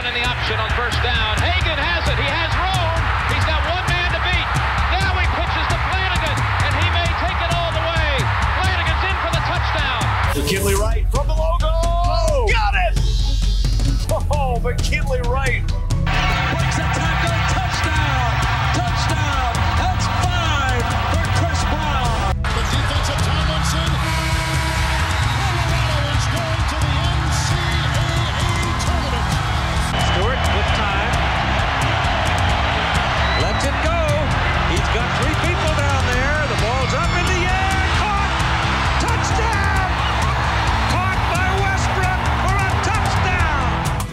in the option on first down. Hagan has it. He has room. He's got one man to beat. Now he pitches to Flanagan, and he may take it all the way. Flanagan's in for the touchdown. McKinley Wright from the logo. Oh, got it! Oh, McKinley Wright. Breaks a tackle. Touchdown. Touchdown. That's 5 for Chris Brown. The defensive Tomlinson. Colorado is going to the NCAA tournament. Stewart with time. Lets it go. He's got 3 people down there. The ball's up in the air. Caught. Touchdown. Caught by Westbrook for a touchdown.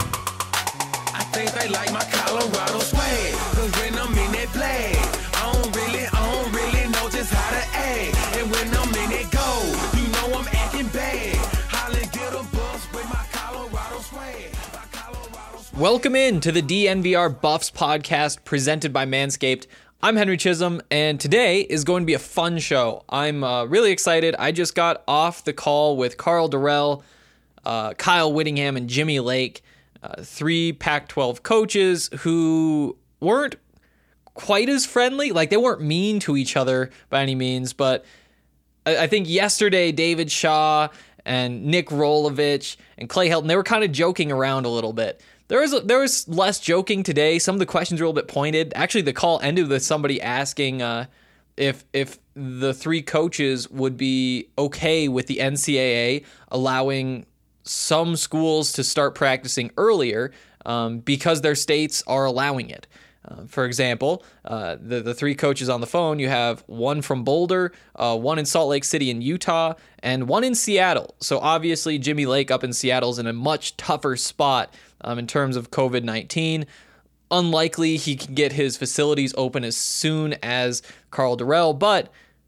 I think they like my Colorado swag, 'cause when I'm in that play, I don't really know just how to act. And when I'm in it go, you know I'm acting bad. Holland get a bus with my Colorado swag. Welcome in to the DNVR Buffs podcast presented by Manscaped. I'm Henry Chisholm, and today is going to be a fun show. I'm really excited. I just got off the call with Karl Dorrell, Kyle Whittingham, and Jimmy Lake, 3 Pac-12 coaches who weren't quite as friendly. Like, they weren't mean to each other by any means, but I think yesterday David Shaw and Nick Rolovich and Clay Helton, they were kind of joking around a little bit. There was less joking today. Some of the questions were a little bit pointed. Actually, the call ended with somebody asking if the 3 coaches would be okay with the NCAA allowing some schools to start practicing earlier because their states are allowing it. For example, the 3 coaches on the phone, you have one from Boulder, one in Salt Lake City in Utah, and one in Seattle. So obviously Jimmy Lake up in Seattle is in a much tougher spot in terms of COVID-19. Unlikely he can get his facilities open as soon as Karl Dorrell, but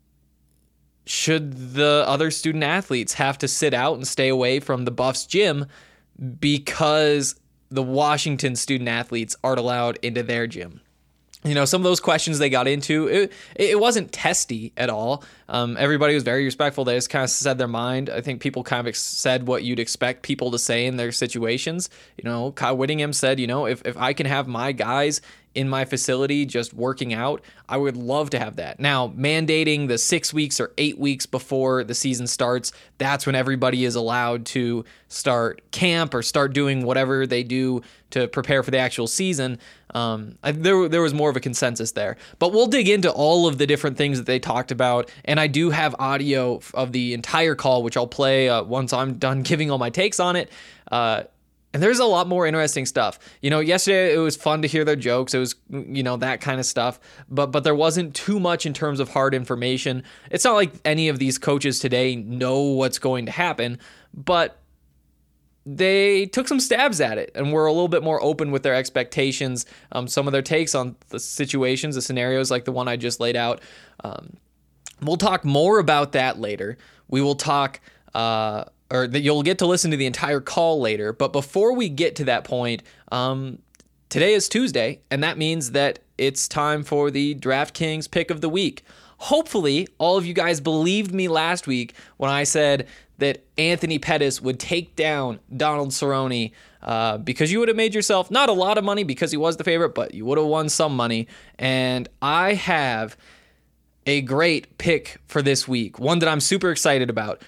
should the other student athletes have to sit out and stay away from the Buffs gym because the Washington student athletes aren't allowed into their gym? You know, some of those questions they got into, it wasn't testy at all. Everybody was very respectful. They just kind of said their mind. I think people kind of said what you'd expect people to say in their situations. You know, Kyle Whittingham said, you know, if I can have my guys in my facility just working out, I would love to have that. Now, mandating the 6 weeks or 8 weeks before the season starts, that's when everybody is allowed to start camp or start doing whatever they do to prepare for the actual season. There was more of a consensus there. But we'll dig into all of the different things that they talked about, and I do have audio of the entire call, which I'll play once I'm done giving all my takes on it. And there's a lot more interesting stuff. You know, yesterday it was fun to hear their jokes. It was, you know, that kind of stuff. But there wasn't too much in terms of hard information. It's not like any of these coaches today know what's going to happen, but they took some stabs at it and were a little bit more open with their expectations. Some of their takes on the situations, the scenarios like the one I just laid out. We'll talk more about that later. We will talk... you'll get to listen to the entire call later. But before we get to that point, today is Tuesday, and that means that it's time for the DraftKings pick of the week. Hopefully, all of you guys believed me last week when I said that Anthony Pettis would take down Donald Cerrone because you would have made yourself not a lot of money because he was the favorite, but you would have won some money. And I have a great pick for this week, one that I'm super excited about.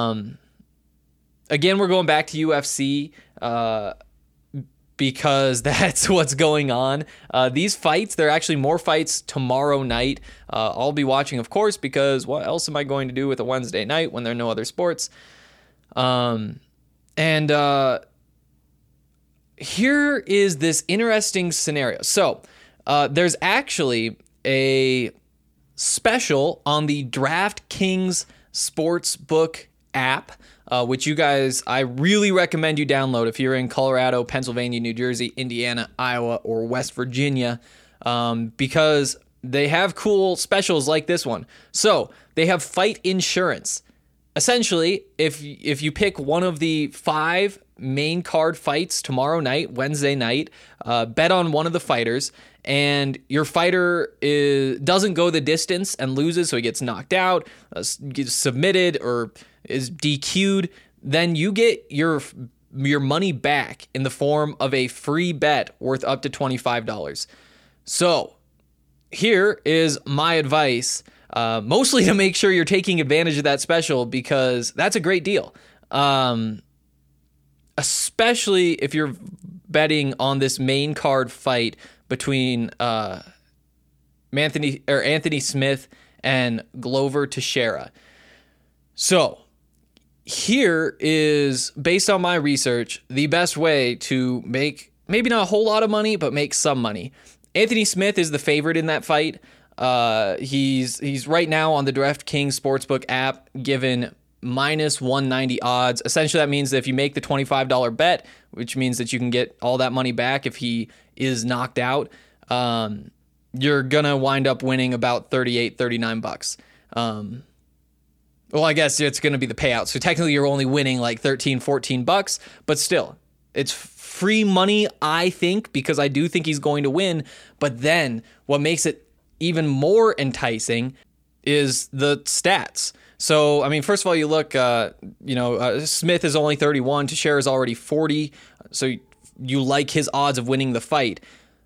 Again, we're going back to UFC because that's what's going on. These fights, there are actually more fights tomorrow night. I'll be watching, of course, because what else am I going to do with a Wednesday night when there are no other sports? Here is this interesting scenario. So there's actually a special on the DraftKings Sportsbook app, which you guys, I really recommend you download if you're in Colorado, Pennsylvania, New Jersey, Indiana, Iowa, or West Virginia, because they have cool specials like this one. So they have fight insurance. Essentially, if you pick one of the 5 main card fights tomorrow night, Wednesday night, bet on one of the fighters, and your fighter doesn't go the distance and loses, so he gets knocked out, gets submitted, or is DQ'd, then you get your your money back in the form of a free bet worth up to $25. So here is my advice, mostly to make sure you're taking advantage of that special, because that's a great deal. Especially if you're betting on this main card fight between Anthony Smith and Glover Teixeira. So here is, based on my research, the best way to make maybe not a whole lot of money, but make some money. Anthony Smith is the favorite in that fight. He's right now on the DraftKings Sportsbook app given minus 190 odds. Essentially, that means that if you make the $25 bet, which means that you can get all that money back if he is knocked out, you're gonna wind up winning about $39. Well, I guess it's gonna be the payout. So technically, you're only winning like $14, but still, it's free money, I think, because I do think he's going to win. But then what makes it even more enticing is the stats. So, I mean, first of all, you look, Smith is only 31, Teixeira is already 40. So you like his odds of winning the fight.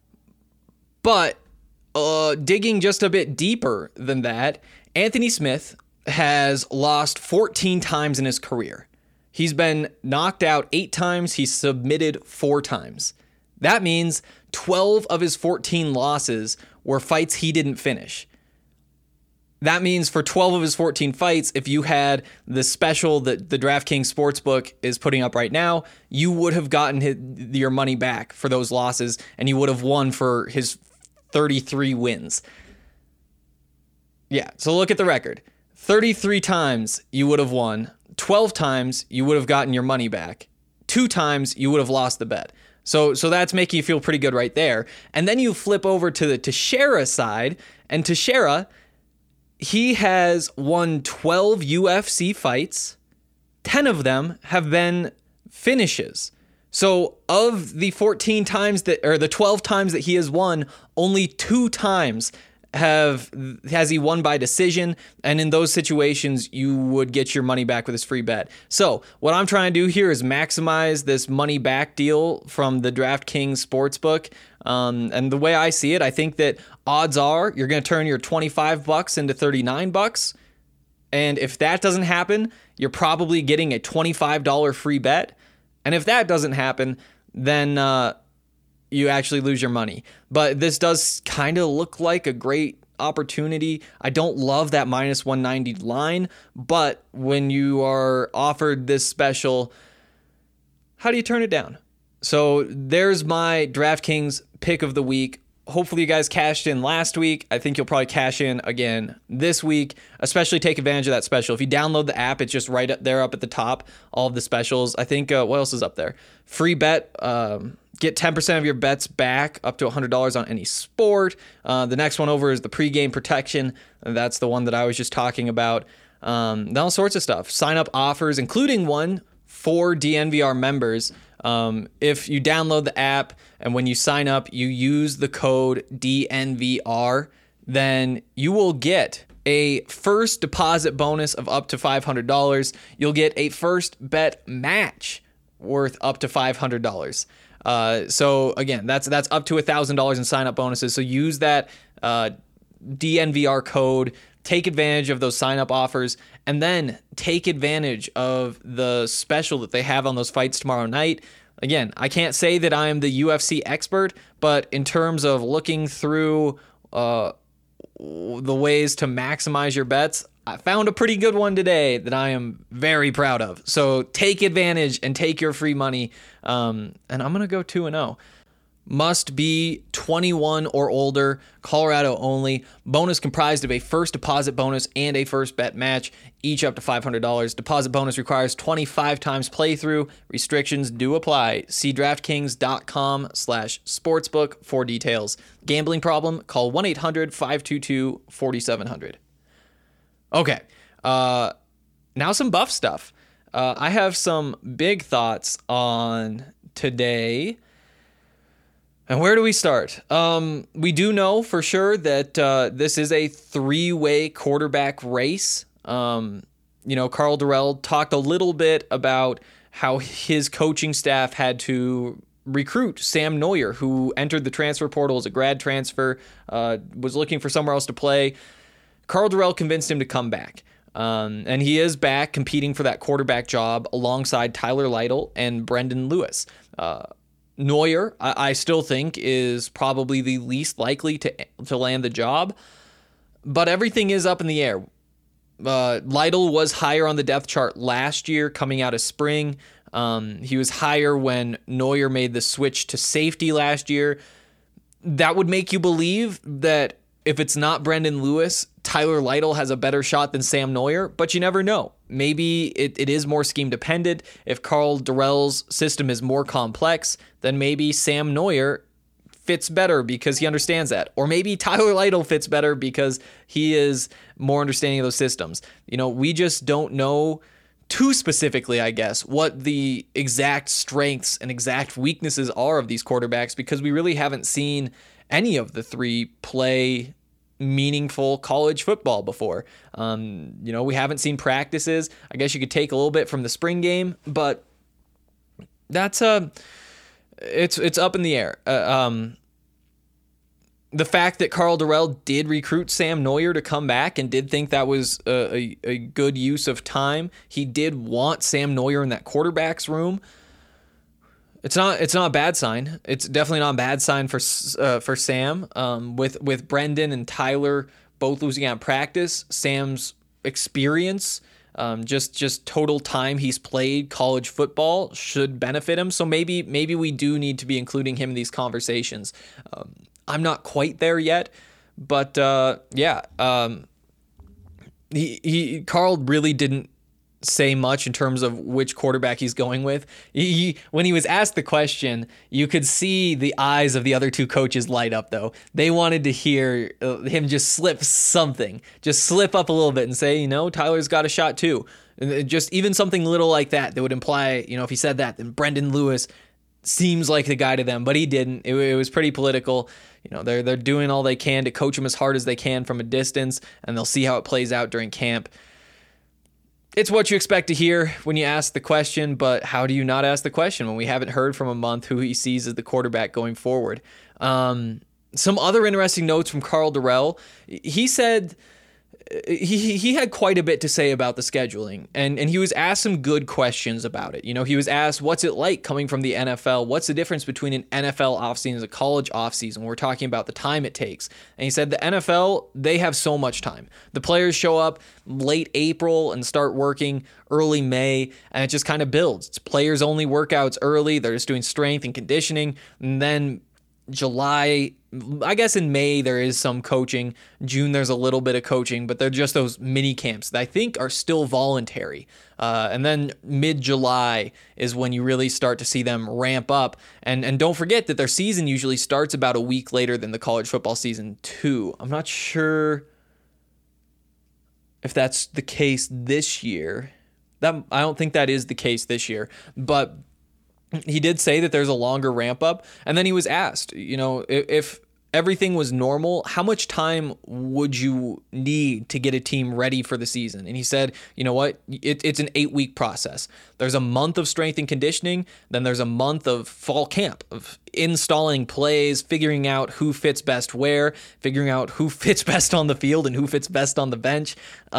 But digging just a bit deeper than that, Anthony Smith has lost 14 times in his career. He's been knocked out 8 times. He's submitted 4 times. That means 12 of his 14 losses were fights he didn't finish. That means for 12 of his 14 fights, if you had the special that the DraftKings Sportsbook is putting up right now, you would have gotten your money back for those losses, and you would have won for his 33 wins. Yeah, so look at the record. 33 times you would have won. 12 times you would have gotten your money back. 2 times you would have lost the bet. So that's making you feel pretty good right there. And then you flip over to the Teixeira side, and Teixeira, he has won 12 UFC fights. 10 of them have been finishes. So of the 14 times the 12 times that he has won, only 2 times has he won by decision, and in those situations you would get your money back with his free bet. So what I'm trying to do here is maximize this money back deal from the DraftKings Sportsbook. And the way I see it, I think that odds are you're going to turn your $25 into $39. And if that doesn't happen, you're probably getting a $25 free bet. And if that doesn't happen, then you actually lose your money. But this does kind of look like a great opportunity. I don't love that minus 190 line, but when you are offered this special, how do you turn it down? So there's my DraftKings pick of the week. Hopefully you guys cashed in last week. I think you'll probably cash in again this week, especially take advantage of that special. If you download the app, it's just right up there up at the top, all of the specials. I think, what else is up there? Free bet, get 10% of your bets back up to $100 on any sport. The next one over is the pregame protection. That's the one that I was just talking about. All sorts of stuff. Sign up offers, including one for DNVR members. If you download the app and when you sign up, you use the code DNVR, then you will get a first deposit bonus of up to $500. You'll get a first bet match worth up to $500. So again, that's up to $1,000 in sign up bonuses. So use that DNVR code. Take advantage of those sign-up offers, and then take advantage of the special that they have on those fights tomorrow night. Again, I can't say that I am the UFC expert, but in terms of looking through the ways to maximize your bets, I found a pretty good one today that I am very proud of. So take advantage and take your free money, and I'm going to go 2-0. Must be 21 or older, Colorado only. Bonus comprised of a first deposit bonus and a first bet match, each up to $500. Deposit bonus requires 25 times playthrough. Restrictions do apply. See DraftKings.com/sportsbook for details. Gambling problem? Call 1-800-522-4700. Okay, now some Buff stuff. I have some big thoughts on today. And where do we start? We do know for sure that this is a 3-way quarterback race. Karl Dorrell talked a little bit about how his coaching staff had to recruit Sam Neuer, who entered the transfer portal as a grad transfer, was looking for somewhere else to play. Karl Dorrell convinced him to come back. And he is back competing for that quarterback job alongside Tyler Lytle and Brendan Lewis. Neuer, I still think, is probably the least likely to land the job, but everything is up in the air. Lytle was higher on the depth chart last year coming out of spring. He was higher when Neuer made the switch to safety last year. That would make you believe that if it's not Brendan Lewis, Tyler Lytle has a better shot than Sam Neuer, but you never know. Maybe it is more scheme dependent. If Karl Dorrell's system is more complex, then maybe Sam Neuer fits better because he understands that. Or maybe Tyler Lytle fits better because he is more understanding of those systems. We just don't know too specifically, I guess, what the exact strengths and exact weaknesses are of these quarterbacks, because we really haven't seen any of the three play meaningful college football before. We haven't seen practices. I guess you could take a little bit from the spring game, but that's it's up in the air. The fact that Karl Dorrell did recruit Sam Neuer to come back and did think that was a good use of time. He did want Sam Neuer in that quarterback's room. It's not a bad sign. It's definitely not a bad sign for Sam. With Brendan and Tyler both losing out in practice, Sam's experience, just total time he's played college football should benefit him. So maybe we do need to be including him in these conversations. I'm not quite there yet, but Karl really didn't say much in terms of which quarterback he's going with. When he was asked the question, you could see the eyes of the other two coaches light up, though. They wanted to hear him just slip up a little bit and say, Tyler's got a shot too. And just even something little like that would imply, if he said that, then Brendan Lewis seems like the guy to them, but he didn't. It was pretty political. They're doing all they can to coach him as hard as they can from a distance, and they'll see how it plays out during camp. It's what you expect to hear when you ask the question, but how do you not ask the question when we haven't heard from a month who he sees as the quarterback going forward? Some other interesting notes from Karl Dorrell. He said he had quite a bit to say about the scheduling, and he was asked some good questions about it. He was asked, what's it like coming from the NFL? What's the difference between an NFL offseason and a college offseason? We're talking about the time it takes. And he said the NFL, they have so much time. The players show up late April and start working early May, and it just kind of builds. It's players only workouts early. They're just doing strength and conditioning, and then July, I guess in May there is some coaching. June there's a little bit of coaching, but they're just those mini camps that I think are still voluntary. And then mid-July is when you really start to see them ramp up. And don't forget that their season usually starts about a week later than the college football season too. I'm not sure if that's the case this year. I don't think that is the case this year, but he did say that there's a longer ramp up. And then he was asked, if everything was normal, how much time would you need to get a team ready for the season? And he said, it's an 8-week process. There's a month of strength and conditioning. Then there's a month of fall camp, of installing plays, figuring out who fits best where, figuring out who fits best on the field and who fits best on the bench.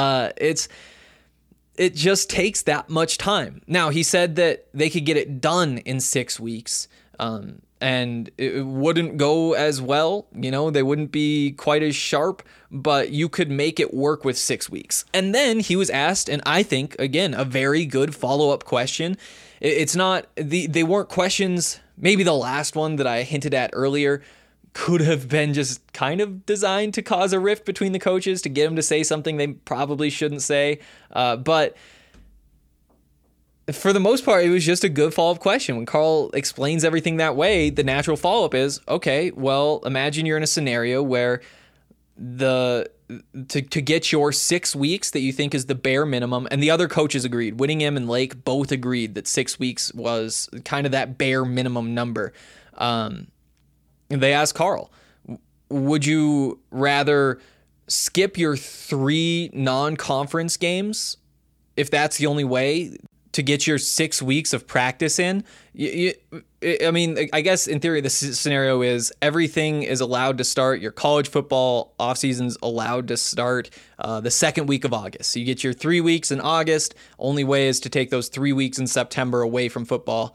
It just takes that much time. Now, he said that they could get it done in 6 weeks, and it wouldn't go as well. They wouldn't be quite as sharp, but you could make it work with 6 weeks. And then he was asked, and I think, again, a very good follow-up question. It's not, they weren't questions, maybe the last one that I hinted at earlier could have been just kind of designed to cause a rift between the coaches, to get them to say something they probably shouldn't say. But for the most part, it was just a good follow-up question. When Karl explains everything that way, the natural follow-up is, okay, well, imagine you're in a scenario where to get your 6 weeks that you think is the bare minimum, and the other coaches agreed. Whittingham and Lake both agreed that 6 weeks was kind of that bare minimum number. And they asked Karl, would you rather skip your 3 non-conference games if that's the only way to get your 6 weeks of practice in. I mean, I guess in theory, the scenario is everything is allowed to start. Your college football off season's allowed to start the second week of August. So you get your 3 weeks in August. Only way is to take those 3 weeks in September away from football.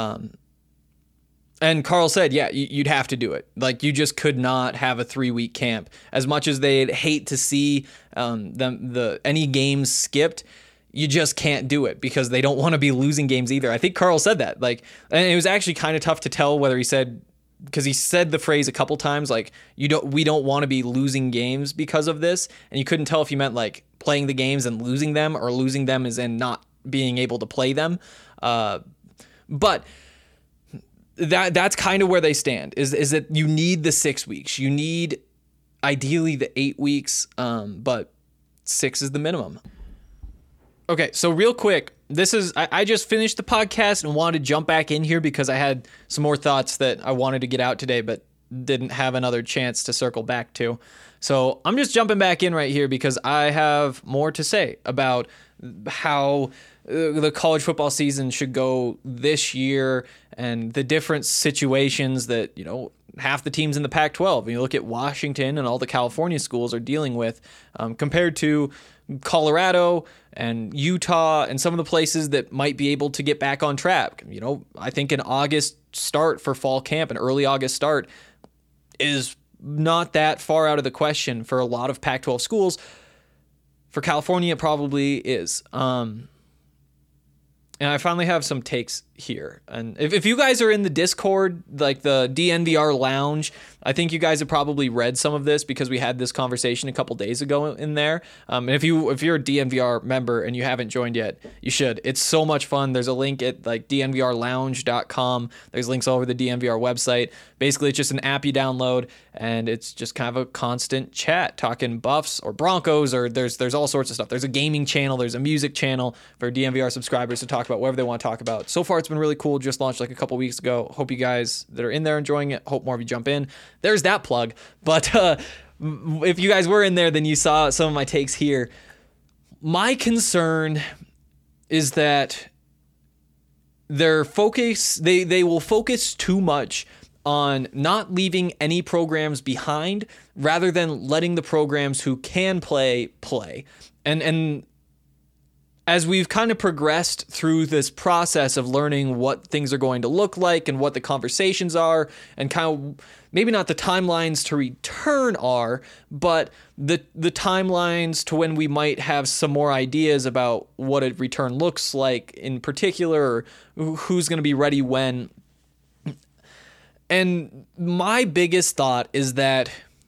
And Carl said, yeah, you'd have to do it. Like, you just could not have a 3-week camp. As much as they'd hate to see any games skipped, you just can't do it because they don't want to be losing games either. I think Carl said that. Like, and it was actually kind of tough to tell whether he said, because he said the phrase a couple times, like, we don't want to be losing games because of this. And you couldn't tell if he meant like playing the games and losing them, or losing them as in not being able to play them. But that's kind of where they stand, is that you need the 6 weeks. You need ideally the 8 weeks, but 6 is the minimum. Okay, so real quick, I just finished the podcast and wanted to jump back in here because I had some more thoughts that I wanted to get out today, but didn't have another chance to circle back to. So I'm just jumping back in right here because I have more to say about how the college football season should go this year and the different situations that, half the teams in the Pac-12, you look at Washington and all the California schools are dealing with, compared to Colorado and Utah and some of the places that might be able to get back on track. I think an August start for fall camp, an early August start, is not that far out of the question for a lot of Pac-12 schools. For California, it probably is. And I finally have some takes here. And if you guys are in the Discord, like the DNVR Lounge, I think you guys have probably read some of this because we had this conversation a couple days ago in there. And if you're a DNVR member and you haven't joined yet, you should. It's so much fun. There's a link at like dnvrlounge.com. There's links all over the DNVR website. Basically, it's just an app you download, and it's just kind of a constant chat, talking Buffs or Broncos, or there's all sorts of stuff. There's a gaming channel. There's a music channel for DNVR subscribers to talk about whatever they want to talk about. So far, it's been really cool. Just launched like a couple weeks ago. Hope you guys that are in there enjoying it. Hope more of you jump in. There's that plug. But if you guys were in there, then you saw some of my takes here. My concern is that their focus, they will focus too much on not leaving any programs behind rather than letting the programs who can play. And as we've kind of progressed through this process of learning what things are going to look like and what the conversations are, and kind of maybe not the timelines to return are, but the timelines to when we might have some more ideas about what a return looks like in particular, or who's going to be ready when. And my biggest thought is that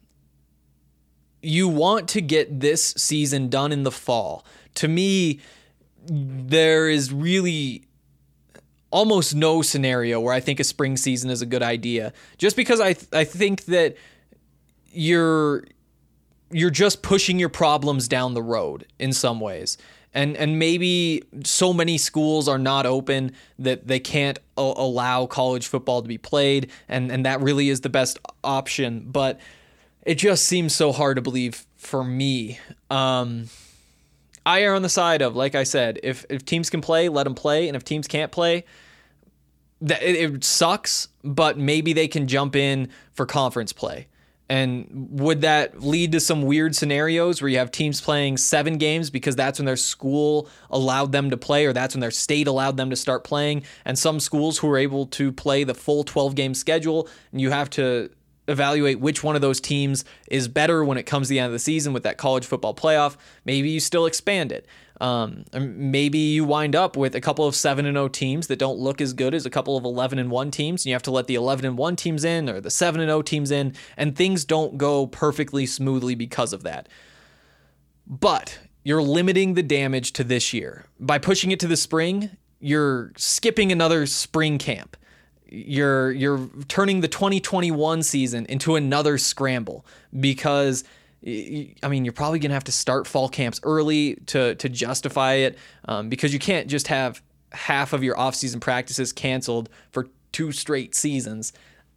you want to get this season done in the fall. To me, there is really almost no scenario where I think a spring season is a good idea. Just because I think that you're just pushing your problems down the road in some ways. And maybe so many schools are not open that they can't allow college football to be played, and that really is the best option. But it just seems so hard to believe for me. I err on the side of, like I said, if teams can play, let them play, and if teams can't play, it sucks, but maybe they can jump in for conference play. And would that lead to some weird scenarios where you have teams playing 7 games because that's when their school allowed them to play, or that's when their state allowed them to start playing, and some schools who are able to play the full 12-game schedule, and you have to evaluate which one of those teams is better when it comes to the end of the season with that college football playoff? Maybe you still expand it. Maybe you wind up with a couple of 7-0 teams that don't look as good as a couple of 11-1 teams, and you have to let the 11-1 teams in or the 7-0 teams in, and things don't go perfectly smoothly because of that. But you're limiting the damage to this year. By pushing it to the spring, you're skipping another spring camp. You're turning the 2021 season into another scramble because, I mean, you're probably going to have to start fall camps early to justify it, because you can't just have half of your off-season practices canceled for 2 straight seasons.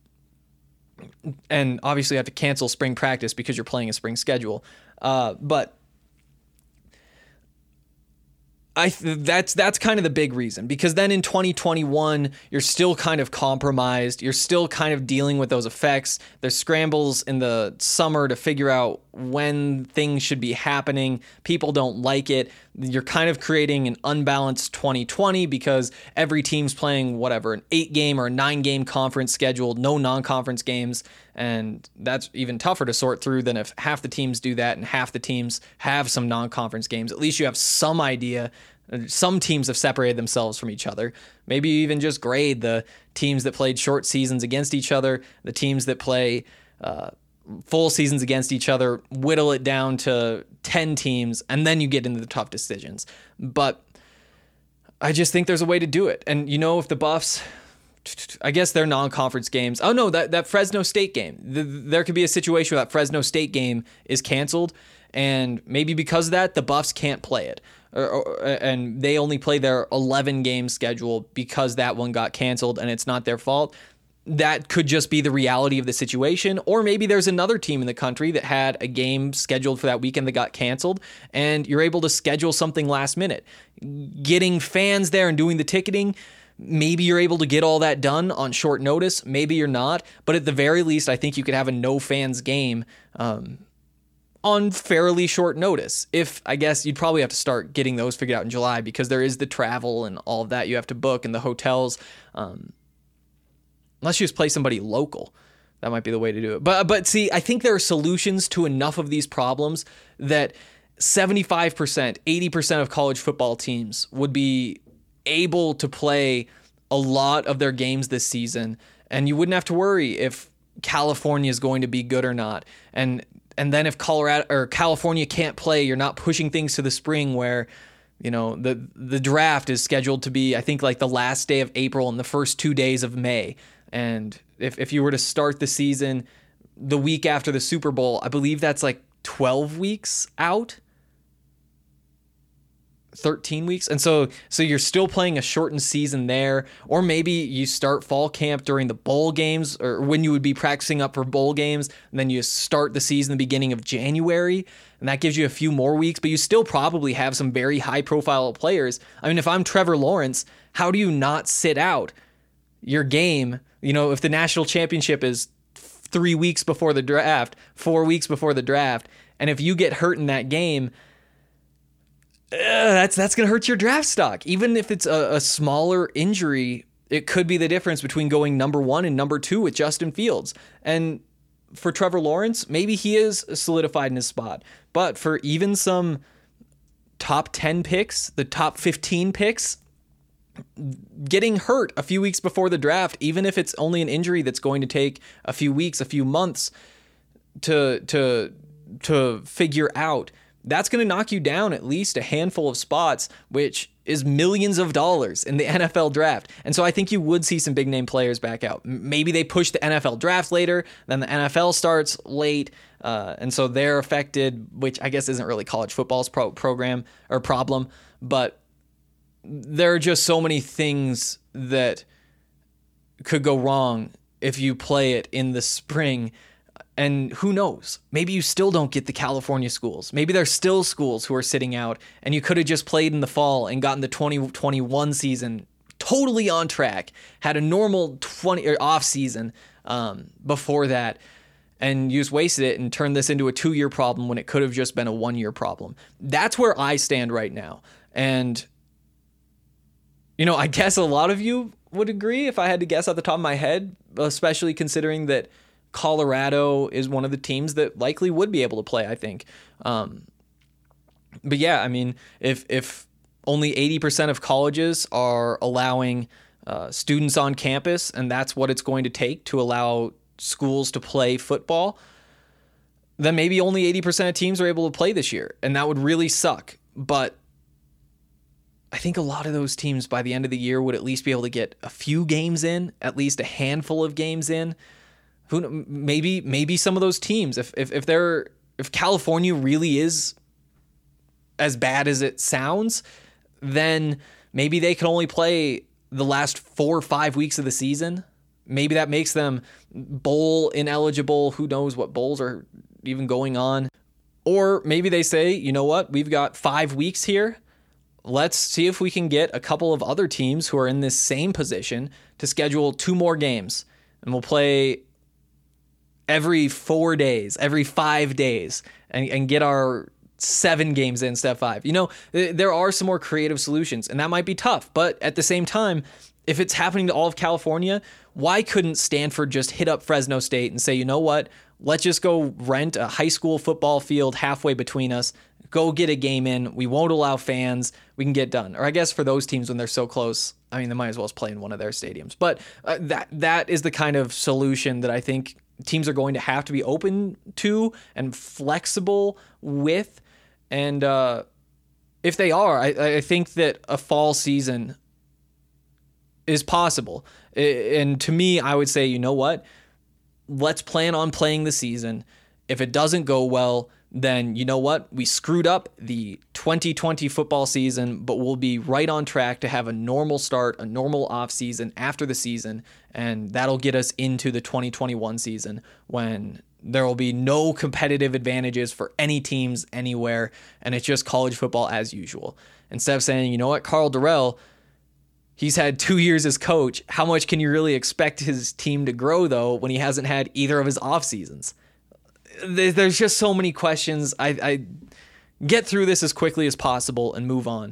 And obviously you have to cancel spring practice because you're playing a spring schedule. But That's kind of the big reason, because then in 2021 you're still kind of compromised. You're still kind of dealing with those effects. There's scrambles in the summer to figure out when things should be happening. People don't like it. You're kind of creating an unbalanced 2020 because every team's playing whatever, an 8-game or a 9-game conference schedule, no non-conference games. And that's even tougher to sort through than if half the teams do that and half the teams have some non-conference games. At least you have some idea. Some teams have separated themselves from each other. Maybe you even just grade the teams that played short seasons against each other, the teams that play full seasons against each other, whittle it down to 10 teams, and then you get into the tough decisions. But I just think there's a way to do it. And, if the Buffs, I guess their non-conference games, that Fresno State game, there could be a situation where that Fresno State game is canceled, and maybe because of that, the Buffs can't play it. And they only play their 11-game schedule because that one got canceled and it's not their fault. That could just be the reality of the situation. Or maybe there's another team in the country that had a game scheduled for that weekend that got canceled, and you're able to schedule something last minute. Getting fans there and doing the ticketing, maybe you're able to get all that done on short notice. Maybe you're not. But at the very least, I think you could have a no fans game on fairly short notice. I guess you'd probably have to start getting those figured out in July, because there is the travel and all of that you have to book, and the hotels. Unless you just play somebody local, that might be the way to do it. But see, I think there are solutions to enough of these problems that 75%, 80% of college football teams would be able to play a lot of their games this season, and you wouldn't have to worry if California is going to be good or not. And then if Colorado or California can't play, you're not pushing things to the spring where, the draft is scheduled to be, I think, like the last day of April and the first 2 days of May. And if you were to start the season the week after the Super Bowl, I believe that's like 12 weeks out. 13 weeks. And so you're still playing a shortened season there. Or maybe you start fall camp during the bowl games, or when you would be practicing up for bowl games, and then you start the season the beginning of January, and that gives you a few more weeks, but you still probably have some very high profile players. I mean, if I'm Trevor Lawrence, how do you not sit out your game? If the national championship is 3 weeks before the draft, 4 weeks before the draft, and if you get hurt in that game, that's going to hurt your draft stock. Even if it's a smaller injury, it could be the difference between going number 1 and number 2 with Justin Fields. And for Trevor Lawrence, maybe he is solidified in his spot. But for even some top 10 picks, the top 15 picks, getting hurt a few weeks before the draft, even if it's only an injury that's going to take a few weeks, a few months to figure out, that's going to knock you down at least a handful of spots, which is millions of dollars in the NFL draft. And so I think you would see some big name players back out. Maybe they push the NFL draft later, then the NFL starts late, and so they're affected, which I guess isn't really college football's program or problem, but there are just so many things that could go wrong if you play it in the spring. And who knows? Maybe you still don't get the California schools. Maybe there's still schools who are sitting out, and you could have just played in the fall and gotten the 2021 season totally on track, had a normal off season before that, and you just wasted it and turned this into a 2-year problem when it could have just been a 1-year problem. That's where I stand right now. And I guess a lot of you would agree if I had to guess at the top of my head, especially considering that Colorado is one of the teams that likely would be able to play, I think. But yeah, I mean, if only 80% of colleges are allowing students on campus, and that's what it's going to take to allow schools to play football, then maybe only 80% of teams are able to play this year, and that would really suck. But I think a lot of those teams by the end of the year would at least be able to get a few games in, at least a handful of games in. Maybe some of those teams, if California really is as bad as it sounds, then maybe they can only play the last 4 or 5 weeks of the season. Maybe that makes them bowl ineligible. Who knows what bowls are even going on? Or maybe they say, you know what, we've got 5 weeks here. let's see if we can get a couple of other teams who are in this same position to schedule 2 more games. And we'll play every 4 days, every 5 days, and get our 7 games in instead of 5. There are some more creative solutions, and that might be tough. But at the same time, if it's happening to all of California, why couldn't Stanford just hit up Fresno State and say, you know what, let's just go rent a high school football field halfway between us, go get a game in, we won't allow fans, we can get done. Or I guess for those teams when they're so close, I mean, they might as well just play in one of their stadiums. But that is the kind of solution that I think teams are going to have to be open to and flexible with. And if they are, I think that a fall season is possible. And to me, I would say, you know what? Let's plan on playing the season. If it doesn't go well, then you know what? We screwed up the 2020 football season, but we'll be right on track to have a normal start, a normal off season after the season, and that'll get us into the 2021 season when there will be no competitive advantages for any teams anywhere, and it's just college football as usual. Instead of saying, you know what, Karl Dorrell, he's had 2 years as coach. How much can you really expect his team to grow, though, when he hasn't had either of his off seasons? There's just so many questions. I get through this as quickly as possible and move on.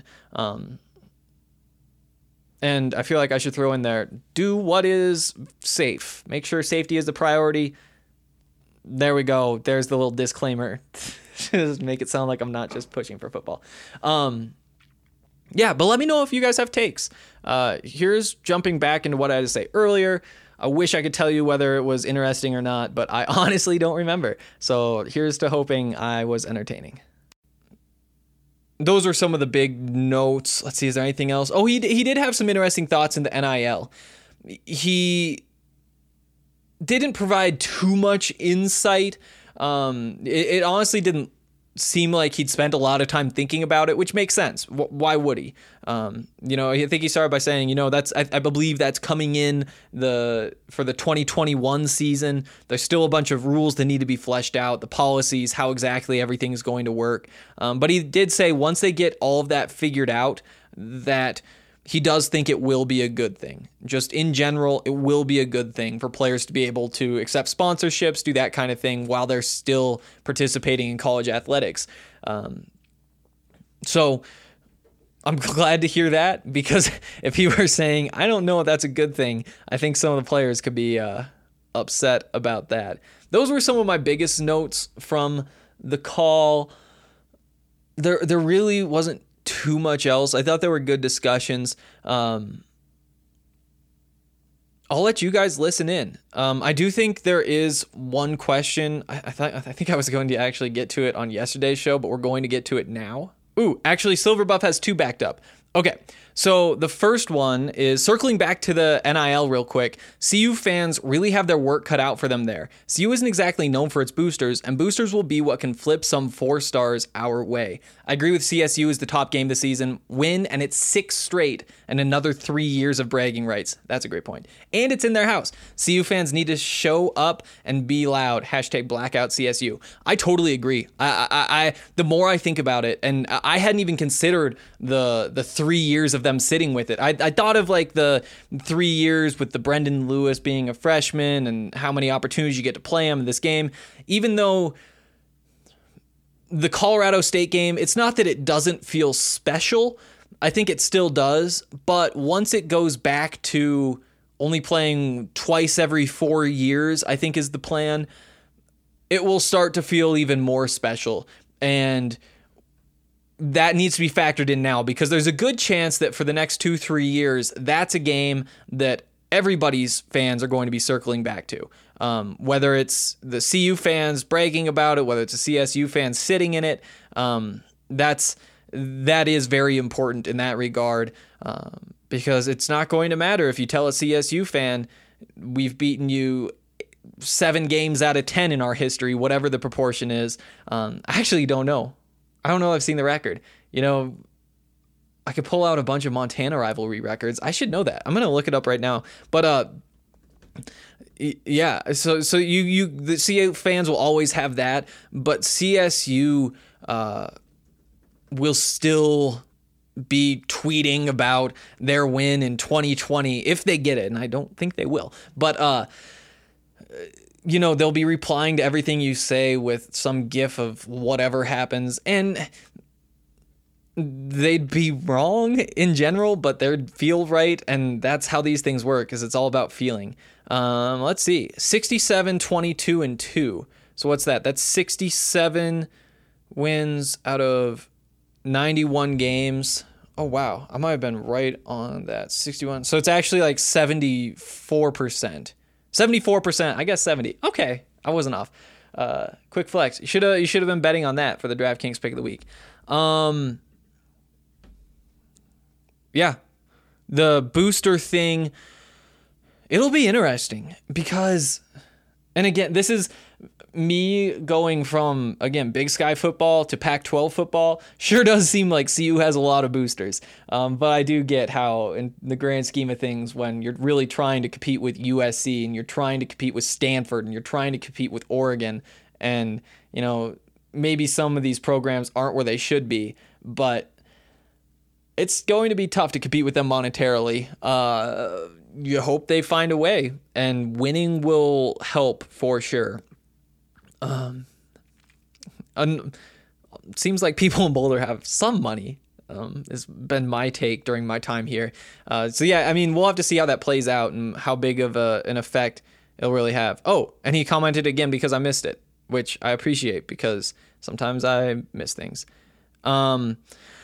And I feel like I should throw in there, do what is safe. Make sure safety is the priority. There we go. There's the little disclaimer. Just make it sound like I'm not just pushing for football. Yeah, but let me know if you guys have takes. Here's jumping back into what I had to say earlier. I wish I could tell you whether it was interesting or not, but I honestly don't remember. So here's to hoping I was entertaining. Those are some of the big notes. Let's see, is there anything else? Oh, he did have some interesting thoughts in the NIL. He didn't provide too much insight. It honestly didn't seem like he'd spent a lot of time thinking about it, which makes sense. Why would he? I think he started by saying, I believe that's coming in for the 2021 season. There's still a bunch of rules that need to be fleshed out, the policies, how exactly everything is going to work. But he did say once they get all of that figured out, that he does think it will be a good thing. Just in general, it will be a good thing for players to be able to accept sponsorships, do that kind of thing while they're still participating in college athletics. So I'm glad to hear that, because if he were saying, I don't know if that's a good thing, I think some of the players could be upset about that. Those were some of my biggest notes from the call. There really wasn't too much else. I thought there were good discussions. I'll let you guys listen in. I do think there is one question. I think I was going to actually get to it on yesterday's show, but we're going to get to it now. Ooh, actually, Silver Buff has 2 backed up. Okay, so the first one is circling back to the NIL real quick. CU fans really have their work cut out for them there. CU isn't exactly known for its boosters, and boosters will be what can flip some 4 stars our way. I agree with CSU is the top game this season. Win, and it's 6 straight, and another 3 years of bragging rights. That's a great point. And it's in their house. CU fans need to show up and be loud. # blackout CSU. I totally agree. I the more I think about it, and I hadn't even considered the 3 years of them sitting with it. I thought of like the 3 years with the Brendan Lewis being a freshman and how many opportunities you get to play him in this game. Even though the Colorado State game, it's not that it doesn't feel special. I think it still does. But once it goes back to only playing twice every 4 years, I think is the plan, it will start to feel even more special. And that needs to be factored in now, because there's a good chance that for the next 2-3 years, that's a game that everybody's fans are going to be circling back to. Whether it's the CU fans bragging about it, whether it's the CSU fans sitting in it, that is very important in that regard, because it's not going to matter if you tell a CSU fan, we've beaten you 7 games out of 10 in our history, whatever the proportion is. I actually don't know. I don't know if I've seen the record. I could pull out a bunch of Montana rivalry records. I should know that. I'm going to look it up right now. But yeah, so the CU fans will always have that, but CSU will still be tweeting about their win in 2020 if they get it, and I don't think they will. But they'll be replying to everything you say with some gif of whatever happens, and they'd be wrong in general, but they'd feel right, and that's how these things work, is it's all about feeling. Let's see, 67, 22, and 2. So what's that? That's 67 wins out of 91 games. Oh, wow. I might have been right on that. 61. So it's actually like 74%. 74%. I guess 70. Okay. I wasn't off. Quick flex. You should have been betting on that for the DraftKings pick of the week. Yeah. The booster thing, it'll be interesting because, and again, this is me going from, again, Big Sky football to Pac-12 football. Sure does seem like CU has a lot of boosters. But I do get how, in the grand scheme of things, when you're really trying to compete with USC and you're trying to compete with Stanford and you're trying to compete with Oregon, and, maybe some of these programs aren't where they should be, but it's going to be tough to compete with them monetarily. You hope they find a way, and winning will help for sure. Seems like people in Boulder have some money. Has been my take during my time here. So yeah, I mean, we'll have to see how that plays out and how big of an effect it'll really have. Oh, and he commented again because I missed it, which I appreciate because sometimes I miss things. Cool.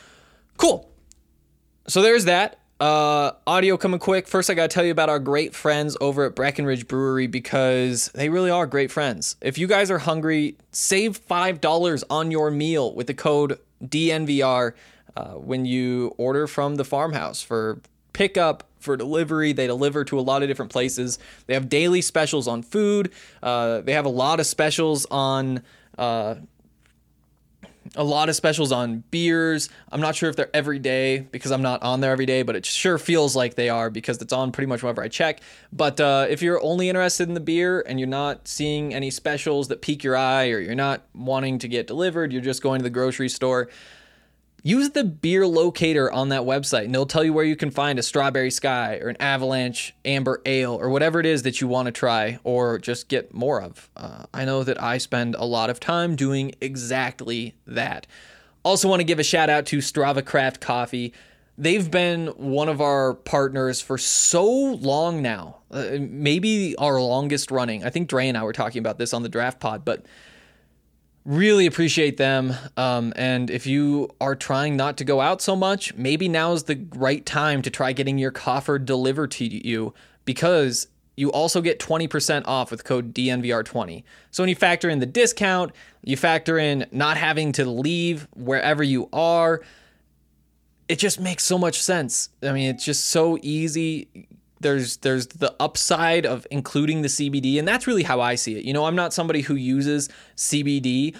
So there's that. Audio coming quick. First, I got to tell you about our great friends over at Breckenridge Brewery because they really are great friends. If you guys are hungry, save $5 on your meal with the code DNVR when you order from the farmhouse for pickup, for delivery. They deliver to a lot of different places. They have daily specials on food. They have a lot of specials on beers. I'm not sure if they're every day because I'm not on there every day, but it sure feels like they are because it's on pretty much whenever I check. But if you're only interested in the beer and you're not seeing any specials that pique your eye, or you're not wanting to get delivered, you're just going to the grocery store, use the beer locator on that website and they'll tell you where you can find a Strawberry Sky or an Avalanche Amber Ale or whatever it is that you want to try or just get more of. I know that I spend a lot of time doing exactly that. Also want to give a shout out to Strava Craft Coffee. They've been one of our partners for so long now, maybe our longest running. I think Dre and I were talking about this on the Draft Pod, but really appreciate them. And if you are trying not to go out so much, maybe now's the right time to try getting your coffer delivered to you because you also get 20% off with code DNVR20. So when you factor in the discount, you factor in not having to leave wherever you are, it just makes so much sense. I mean, it's just so easy. There's the upside of including the CBD, and that's really how I see it. I'm not somebody who uses CBD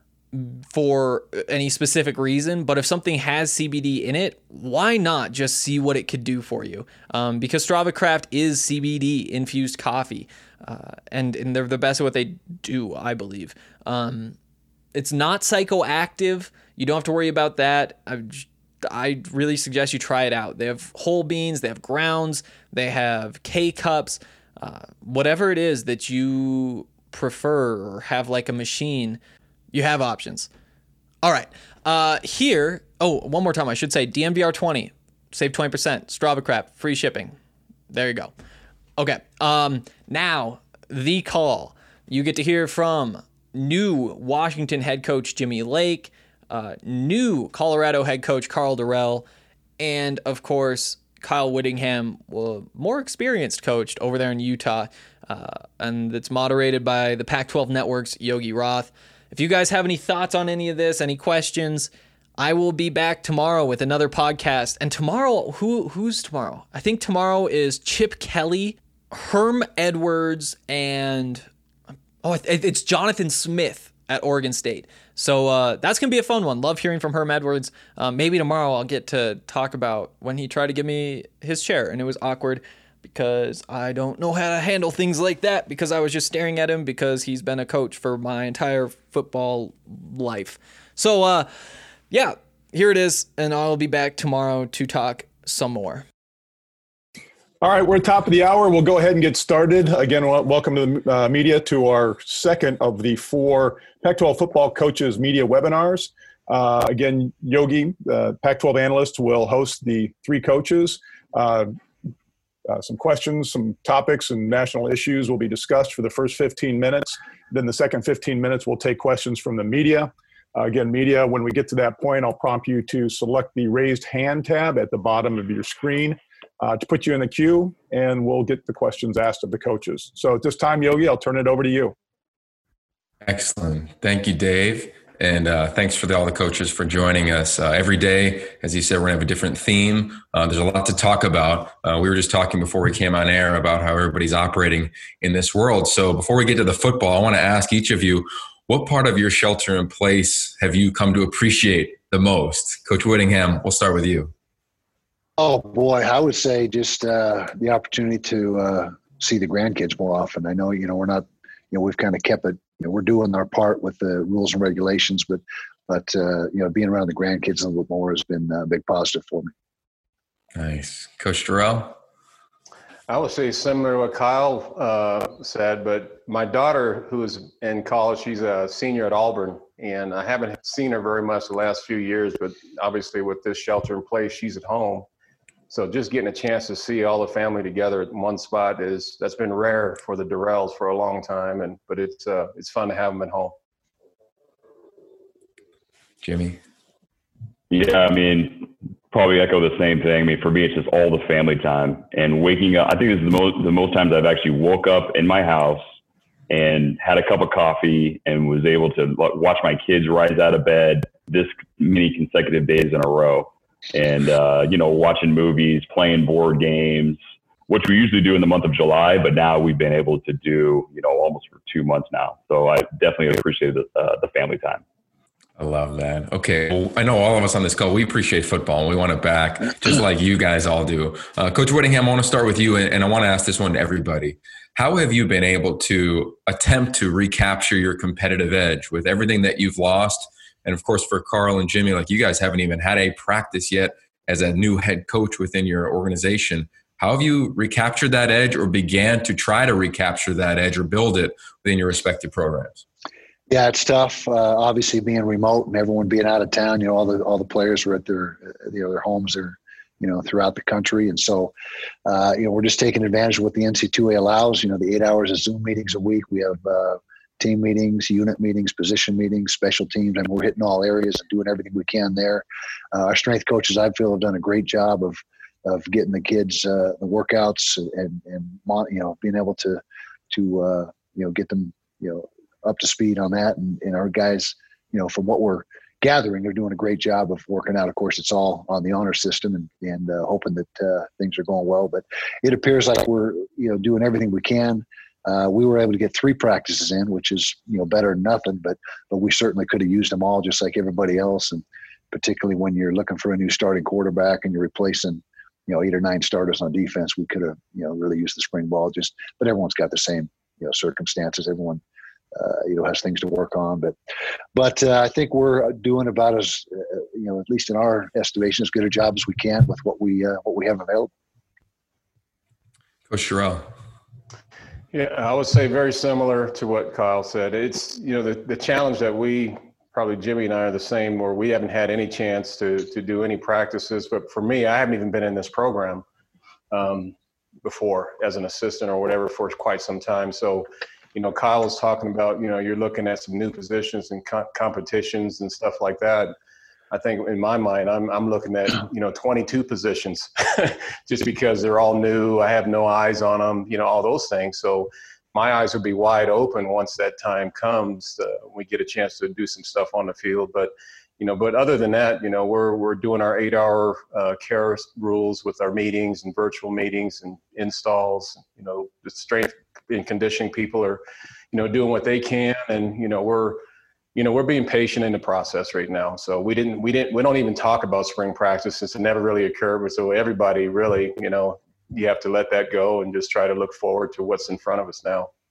for any specific reason, but if something has CBD in it, why not just see what it could do for you? Because Strava Craft is CBD infused coffee, and they're the best at what they do, I believe. It's not psychoactive. You don't have to worry about that. I really suggest you try it out. They have whole beans, they have grounds, they have K-cups, whatever it is that you prefer or have like a machine, you have options. All right. Here, one more time, I should say DNVR20, save 20%, Strava Craft, free shipping. There you go. Okay. Now, the call. You get to hear from new Washington head coach Jimmy Lake, new Colorado head coach Karl Dorrell, and of course Kyle Whittingham, more experienced coach over there in Utah, and it's moderated by the Pac-12 Network's Yogi Roth. If you guys have any thoughts on any of this, any questions, I will be back tomorrow with another podcast. And tomorrow, who's tomorrow? I think tomorrow is Chip Kelly, Herm Edwards, and it's Jonathan Smith at Oregon State. So that's going to be a fun one. Love hearing from Herm Edwards. Maybe tomorrow I'll get to talk about when he tried to give me his chair, and it was awkward because I don't know how to handle things like that because I was just staring at him because he's been a coach for my entire football life. So, yeah, here it is, and I'll be back tomorrow to talk some more. All right, we're at the top of the hour. We'll go ahead and get started. Again, welcome to the media to our second of the 4 Pac-12 football coaches media webinars. Again, Yogi, Pac-12 analyst, will host the 3 coaches. Some questions, some topics, and national issues will be discussed for the first 15 minutes. Then the second 15 minutes, we'll take questions from the media. Again, media, when we get to that point, I'll prompt you to select the raised hand tab at the bottom of your screen to put you in the queue, and we'll get the questions asked of the coaches. So at this time, Yogi, I'll turn it over to you. Excellent. Thank you, Dave. And thanks for all the coaches for joining us. Every day, as you said, we're going to have a different theme. There's a lot to talk about. We were just talking before we came on air about how everybody's operating in this world. So before we get to the football, I want to ask each of you, what part of your shelter in place have you come to appreciate the most? Coach Whittingham, we'll start with you. Oh, boy, I would say just the opportunity to see the grandkids more often. I know, we're not, we've kind of kept it. We're doing our part with the rules and regulations, but being around the grandkids a little bit more has been a big positive for me. Nice. Coach Terrell? I would say similar to what Kyle said, but my daughter, who is in college, she's a senior at Auburn, and I haven't seen her very much the last few years, but obviously with this shelter in place, she's at home. So just getting a chance to see all the family together at one spot that's been rare for the Durrells for a long time, but it's fun to have them at home. Jimmy? Yeah, probably echo the same thing. For me, it's just all the family time and waking up. I think this is the most times I've actually woke up in my house and had a cup of coffee and was able to watch my kids rise out of bed this many consecutive days in a row. And, watching movies, playing board games, which we usually do in the month of July, but now we've been able to do, almost for 2 months now. So I definitely appreciate the family time. I love that. Okay. Well, I know all of us on this call, we appreciate football and we want it back just like you guys all do. Coach Whittingham, I want to start with you, and I want to ask this one to everybody. How have you been able to attempt to recapture your competitive edge with everything that you've lost? And of course, for Carl and Jimmy, you guys haven't even had a practice yet as a new head coach within your organization. How have you recaptured that edge or began to try to recapture that edge or build it within your respective programs? Yeah, it's tough. Obviously, being remote and everyone being out of town, all the players were at their homes or throughout the country, and so we're just taking advantage of what the NC2A allows. The 8 hours of Zoom meetings a week. We have team meetings, unit meetings, position meetings, special teams, and we're hitting all areas and doing everything we can there. Our strength coaches, I feel, have done a great job of getting the kids the workouts and being able to get them up to speed on that. And our guys, from what we're gathering, they're doing a great job of working out. Of course, it's all on the honor system and hoping that things are going well. But it appears like we're doing everything we can. We were able to get 3 practices in, which is better than nothing. But we certainly could have used them all, just like everybody else. And particularly when you're looking for a new starting quarterback and you're replacing 8 or 9 starters on defense, we could have really used the spring ball. But everyone's got the same circumstances. Everyone has things to work on. But I think we're doing about as at least in our estimation, as good a job as we can with what we have available. Coach Terrell. Yeah, I would say very similar to what Kyle said. It's, the challenge that probably Jimmy and I are the same, where we haven't had any chance to do any practices. But for me, I haven't even been in this program before as an assistant or whatever for quite some time. So, Kyle was talking about, you're looking at some new positions and competitions and stuff like that. I think in my mind, I'm looking at, 22 positions just because they're all new. I have no eyes on them, all those things. So my eyes would be wide open once that time comes. We get a chance to do some stuff on the field. But other than that, we're doing our 8-hour care rules with our meetings and virtual meetings and installs. The strength and conditioning people are, doing what they can. And, we're being patient in the process right now. So we don't even talk about spring practice since it never really occurred. But so everybody really, you have to let that go and just try to look forward to what's in front of us now.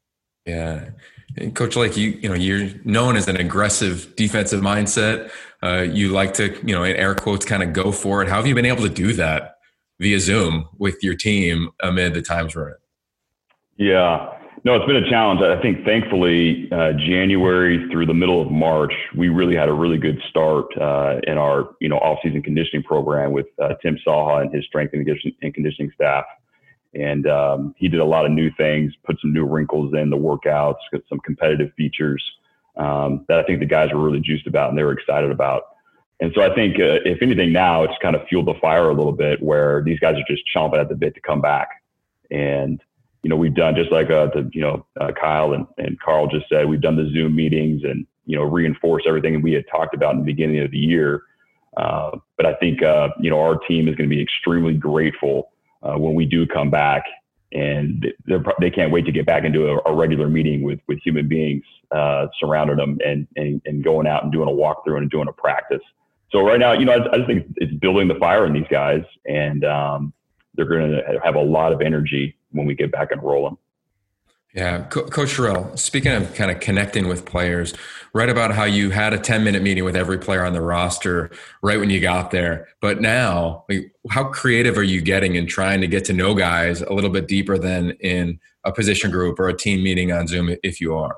Yeah. And Coach Lake, you're known as an aggressive defensive mindset. You like to, in air quotes, kind of go for it. How have you been able to do that via Zoom with your team amid the times we're in? Yeah. No, it's been a challenge. I think thankfully, January through the middle of March, we really had a really good start in our, off-season conditioning program with Tim Saha and his strength and conditioning staff. And he did a lot of new things, put some new wrinkles in the workouts, got some competitive features that I think the guys were really juiced about and they were excited about. And so I think if anything now, it's kind of fueled the fire a little bit where these guys are just chomping at the bit to come back. And, we've done just like Kyle and Carl just said, we've done the Zoom meetings and, reinforce everything we had talked about in the beginning of the year. But I think, our team is going to be extremely grateful when we do come back, and they can't wait to get back into a regular meeting with human beings surrounding them and going out and doing a walkthrough and doing a practice. So right now, I just think it's building the fire in these guys, and they're going to have a lot of energy when we get back and rolling. Yeah. Coach Terrell, speaking of kind of connecting with players, write about how you had a 10-minute meeting with every player on the roster right when you got there. But now, how creative are you getting in trying to get to know guys a little bit deeper than in a position group or a team meeting on Zoom, if you are?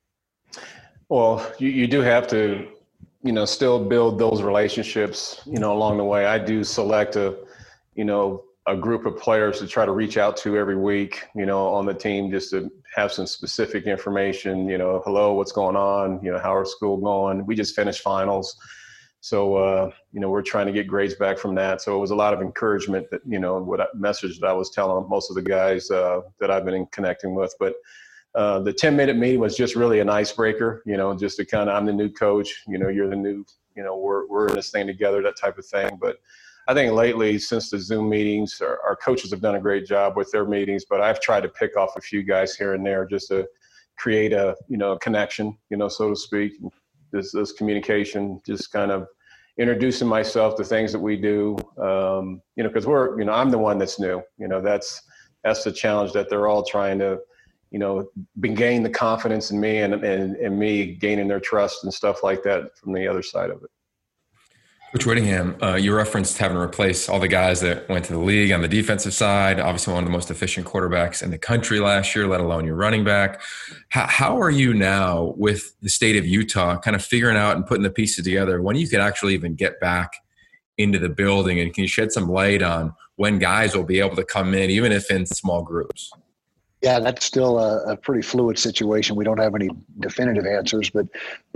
Well, you do have to, still build those relationships, along the way. I do select a group of players to try to reach out to every week, on the team, just to have some specific information, hello, what's going on? How are school going? We just finished finals. So, we're trying to get grades back from that. So it was a lot of encouragement that, message that I was telling most of the guys that I've been connecting with. But the 10-minute meeting was just really an icebreaker, just to I'm the new coach, you're the new, we're in this thing together, that type of thing. But I think lately, since the Zoom meetings, our coaches have done a great job with their meetings, but I've tried to pick off a few guys here and there just to create a, connection, so to speak. This communication, just kind of introducing myself to things that we do, because I'm the one that's new. That's the challenge, that they're all trying to, gain the confidence in me and me gaining their trust and stuff like that from the other side of it. Coach Whittingham, you referenced having to replace all the guys that went to the league on the defensive side, obviously one of the most efficient quarterbacks in the country last year, let alone your running back. How are you now with the state of Utah kind of figuring out and putting the pieces together when you could actually even get back into the building? And can you shed some light on when guys will be able to come in, even if in small groups? Yeah, that's still a pretty fluid situation. We don't have any definitive answers, but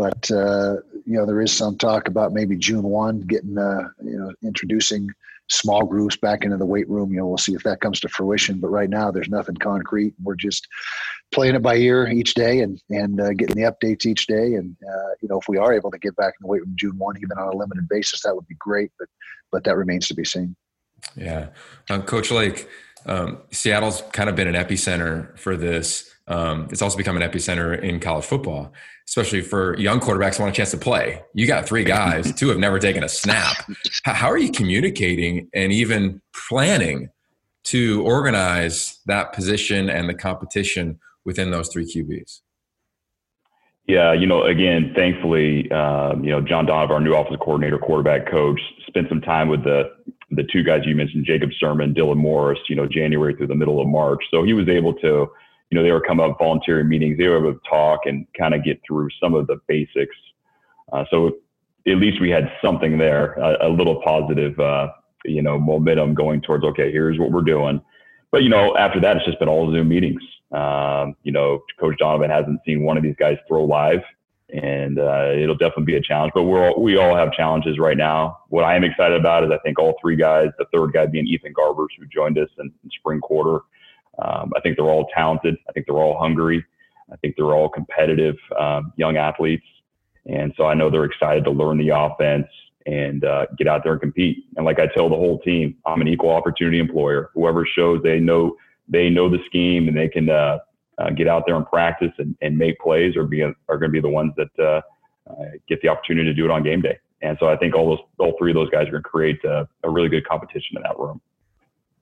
there is some talk about maybe June 1 getting introducing small groups back into the weight room. We'll see if that comes to fruition. But right now, there's nothing concrete. We're just playing it by ear each day and getting the updates each day. And if we are able to get back in the weight room June 1, even on a limited basis, that would be great. But that remains to be seen. Yeah, Coach Lake. Seattle's kind of been an epicenter for this. It's also become an epicenter in college football, especially for young quarterbacks who want a chance to play. You got 3 guys, 2 have never taken a snap. How are you communicating and even planning to organize that position and the competition within those 3 QBs? Yeah, again, thankfully, John Donovan, our new offensive coordinator, quarterback coach, spent some time with the 2 guys you mentioned, Jacob Sermon, Dylan Morris, January through the middle of March. So he was able to, they were coming up volunteering meetings. They were able to talk and kind of get through some of the basics. So at least we had something there, a little positive, momentum going towards, okay, here's what we're doing. But, after that, it's just been all Zoom meetings. Coach Donovan hasn't seen one of these guys throw live, and it'll definitely be a challenge. But we all have challenges right now. What I am excited about is I think all 3 guys, the 3rd guy being Ethan Garbers, who joined us in spring quarter. I think they're all talented. I think they're all hungry. I think they're all competitive young athletes. And so I know they're excited to learn the offense and get out there and compete. And like I tell the whole team, I'm an equal opportunity employer. Whoever shows they know the scheme and they can get out there and practice and make plays are going to be the ones that get the opportunity to do it on game day. And so I think all 3 of those guys are going to create a really good competition in that room.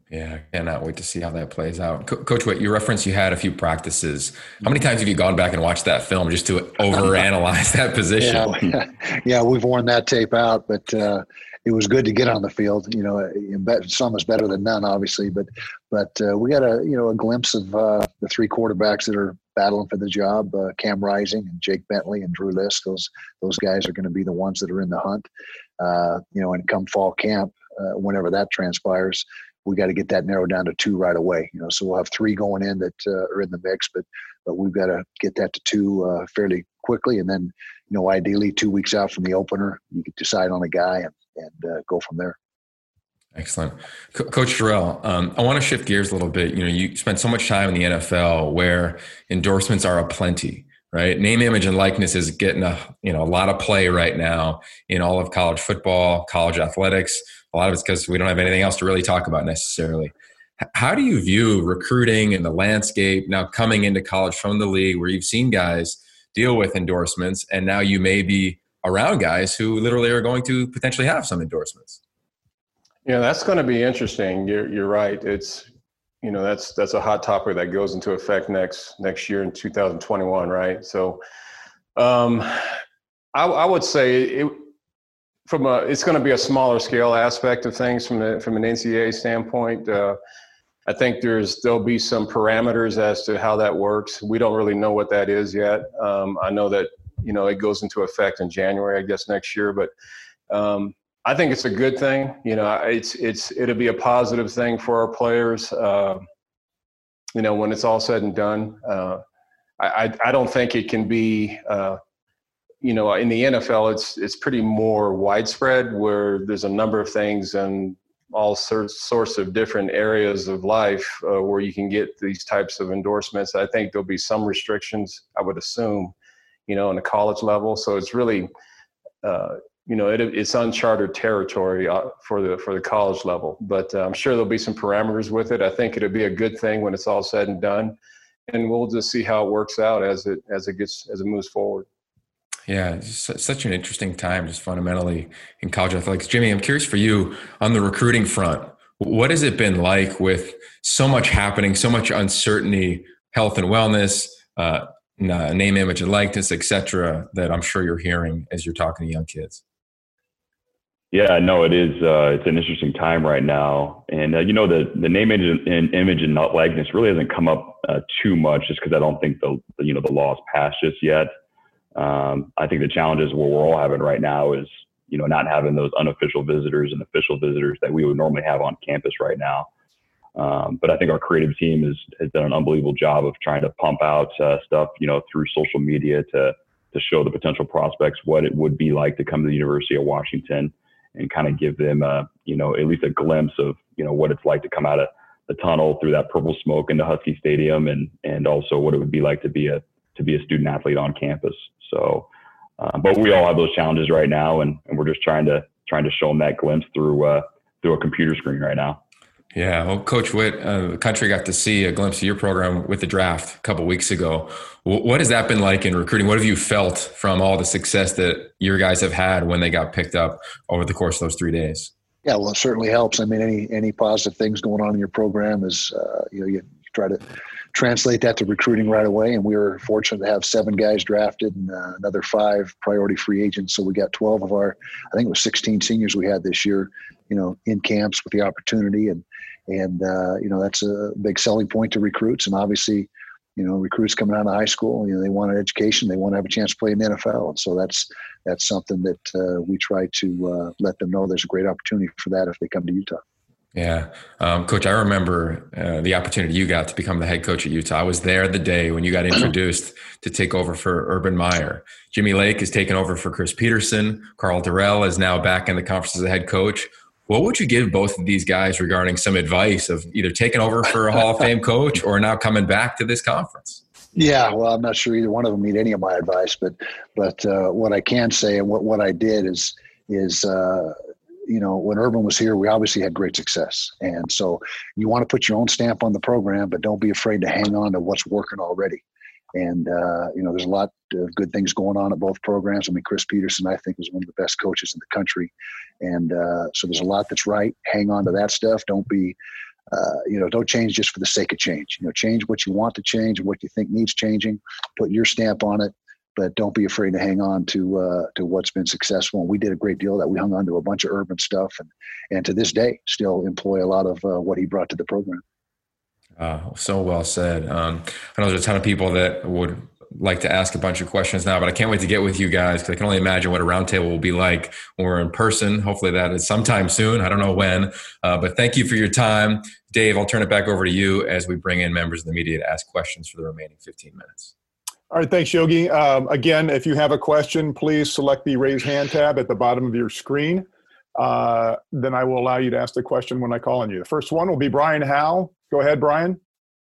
Yeah, I cannot wait to see how that plays out. Coach Witt, you referenced you had a few practices. How many times have you gone back and watched that film just to overanalyze that position? Yeah, we've worn that tape out, but it was good to get on the field. You know, some is better than none, obviously, but we got a glimpse of the three quarterbacks that are battling for the job: Cam Rising and Jake Bentley and Drew Lisk. Those guys are going to be the ones that are in the hunt. And come fall camp, whenever that transpires, we got to get that narrowed down to two right away. So we'll have three going in that are in the mix, but we've got to get that to two fairly quickly, and then ideally 2 weeks out from the opener, you could decide on a guy and go from there. Excellent. Coach Terrell, I want to shift gears a little bit. You spent so much time in the NFL where endorsements are aplenty, right? Name, image, and likeness is getting a lot of play right now in all of college football, college athletics. A lot of it's because we don't have anything else to really talk about necessarily. How do you view recruiting and the landscape now coming into college from the league, where you've seen guys deal with endorsements, and now you may be around guys who literally are going to potentially have some endorsements? Yeah, that's going to be interesting. You're right. It's that's a hot topic that goes into effect next year in 2021, right? So, I would say it's going to be a smaller scale aspect of things from an NCAA standpoint. I think there'll be some parameters as to how that works. We don't really know what that is yet. I know that it goes into effect in January, I guess, next year, but I think it's a good thing. It'll be a positive thing for our players. When it's all said and done, I don't think it can be. In the NFL, it's pretty more widespread, where there's a number of things and all sorts of different areas of life where you can get these types of endorsements. I think there'll be some restrictions, I would assume, on the college level. So it's really, it's uncharted territory for the college level. But I'm sure there'll be some parameters with it. I think it'll be a good thing when it's all said and done, and we'll just see how it works out as it moves forward. Yeah, it's such an interesting time just fundamentally in college athletics. Jimmy, I'm curious for you on the recruiting front. What has it been like with so much happening, so much uncertainty, health and wellness, name, image, and likeness, et cetera, that I'm sure you're hearing as you're talking to young kids? Yeah, no, it is. It's an interesting time right now. And, the name, image, and likeness really hasn't come up too much, just because I don't think the law is passed just yet. I think the challenges what we're all having right now is, not having those unofficial visitors and official visitors that we would normally have on campus right now. But I think our creative team has done an unbelievable job of trying to pump out stuff, through social media to show the potential prospects what it would be like to come to the University of Washington, and kind of give them, at least a glimpse of, what it's like to come out of the tunnel through that purple smoke into Husky Stadium, and also what it would be like to be a student athlete on campus. So, but we all have those challenges right now, and we're just trying to show them that glimpse through a computer screen right now. Yeah, well, Coach Witt, the country got to see a glimpse of your program with the draft a couple of weeks ago. What has that been like in recruiting? What have you felt from all the success that your guys have had when they got picked up over the course of those 3 days? Yeah, well, it certainly helps. I mean, any positive things going on in your program is, you try to translate that to recruiting right away. And we were fortunate to have 7 guys drafted and another 5 priority free agents. So we got 12 of our, I think it was 16 seniors we had this year, in camps with the opportunity. And that's a big selling point to recruits. And obviously, recruits coming out of high school, they want an education, they want to have a chance to play in the NFL. And so that's something that we try to let them know there's a great opportunity for that if they come to Utah. Yeah. Coach, I remember the opportunity you got to become the head coach at Utah. I was there the day when you got introduced to take over for Urban Meyer. Jimmy Lake is taking over for Chris Peterson. Karl Dorrell is now back in the conference as a head coach. What would you give both of these guys regarding some advice of either taking over for a Hall of Fame coach or now coming back to this conference? Yeah, well, I'm not sure either one of them need any of my advice, but what I can say and what I did is when Urban was here, we obviously had great success. And so you want to put your own stamp on the program, but don't be afraid to hang on to what's working already. And, there's a lot of good things going on at both programs. I mean, Chris Peterson, I think, is one of the best coaches in the country. And so there's a lot that's right. Hang on to that stuff. Don't be don't change just for the sake of change. Change what you want to change and what you think needs changing. Put your stamp on it, but don't be afraid to hang on to what's been successful. And we did a great deal of that. We hung on to a bunch of urban stuff, and to this day still employ a lot of what he brought to the program. So well said. I know there's a ton of people that would like to ask a bunch of questions now, but I can't wait to get with you guys because I can only imagine what a roundtable will be like when we're in person. Hopefully that is sometime soon. I don't know when, but thank you for your time. Dave, I'll turn it back over to you as we bring in members of the media to ask questions for the remaining 15 minutes. All right, thanks, Yogi. Again, if you have a question, please select the raise hand tab at the bottom of your screen. Then I will allow you to ask the question when I call on you. The first one will be Brian Howe. Go ahead, Brian.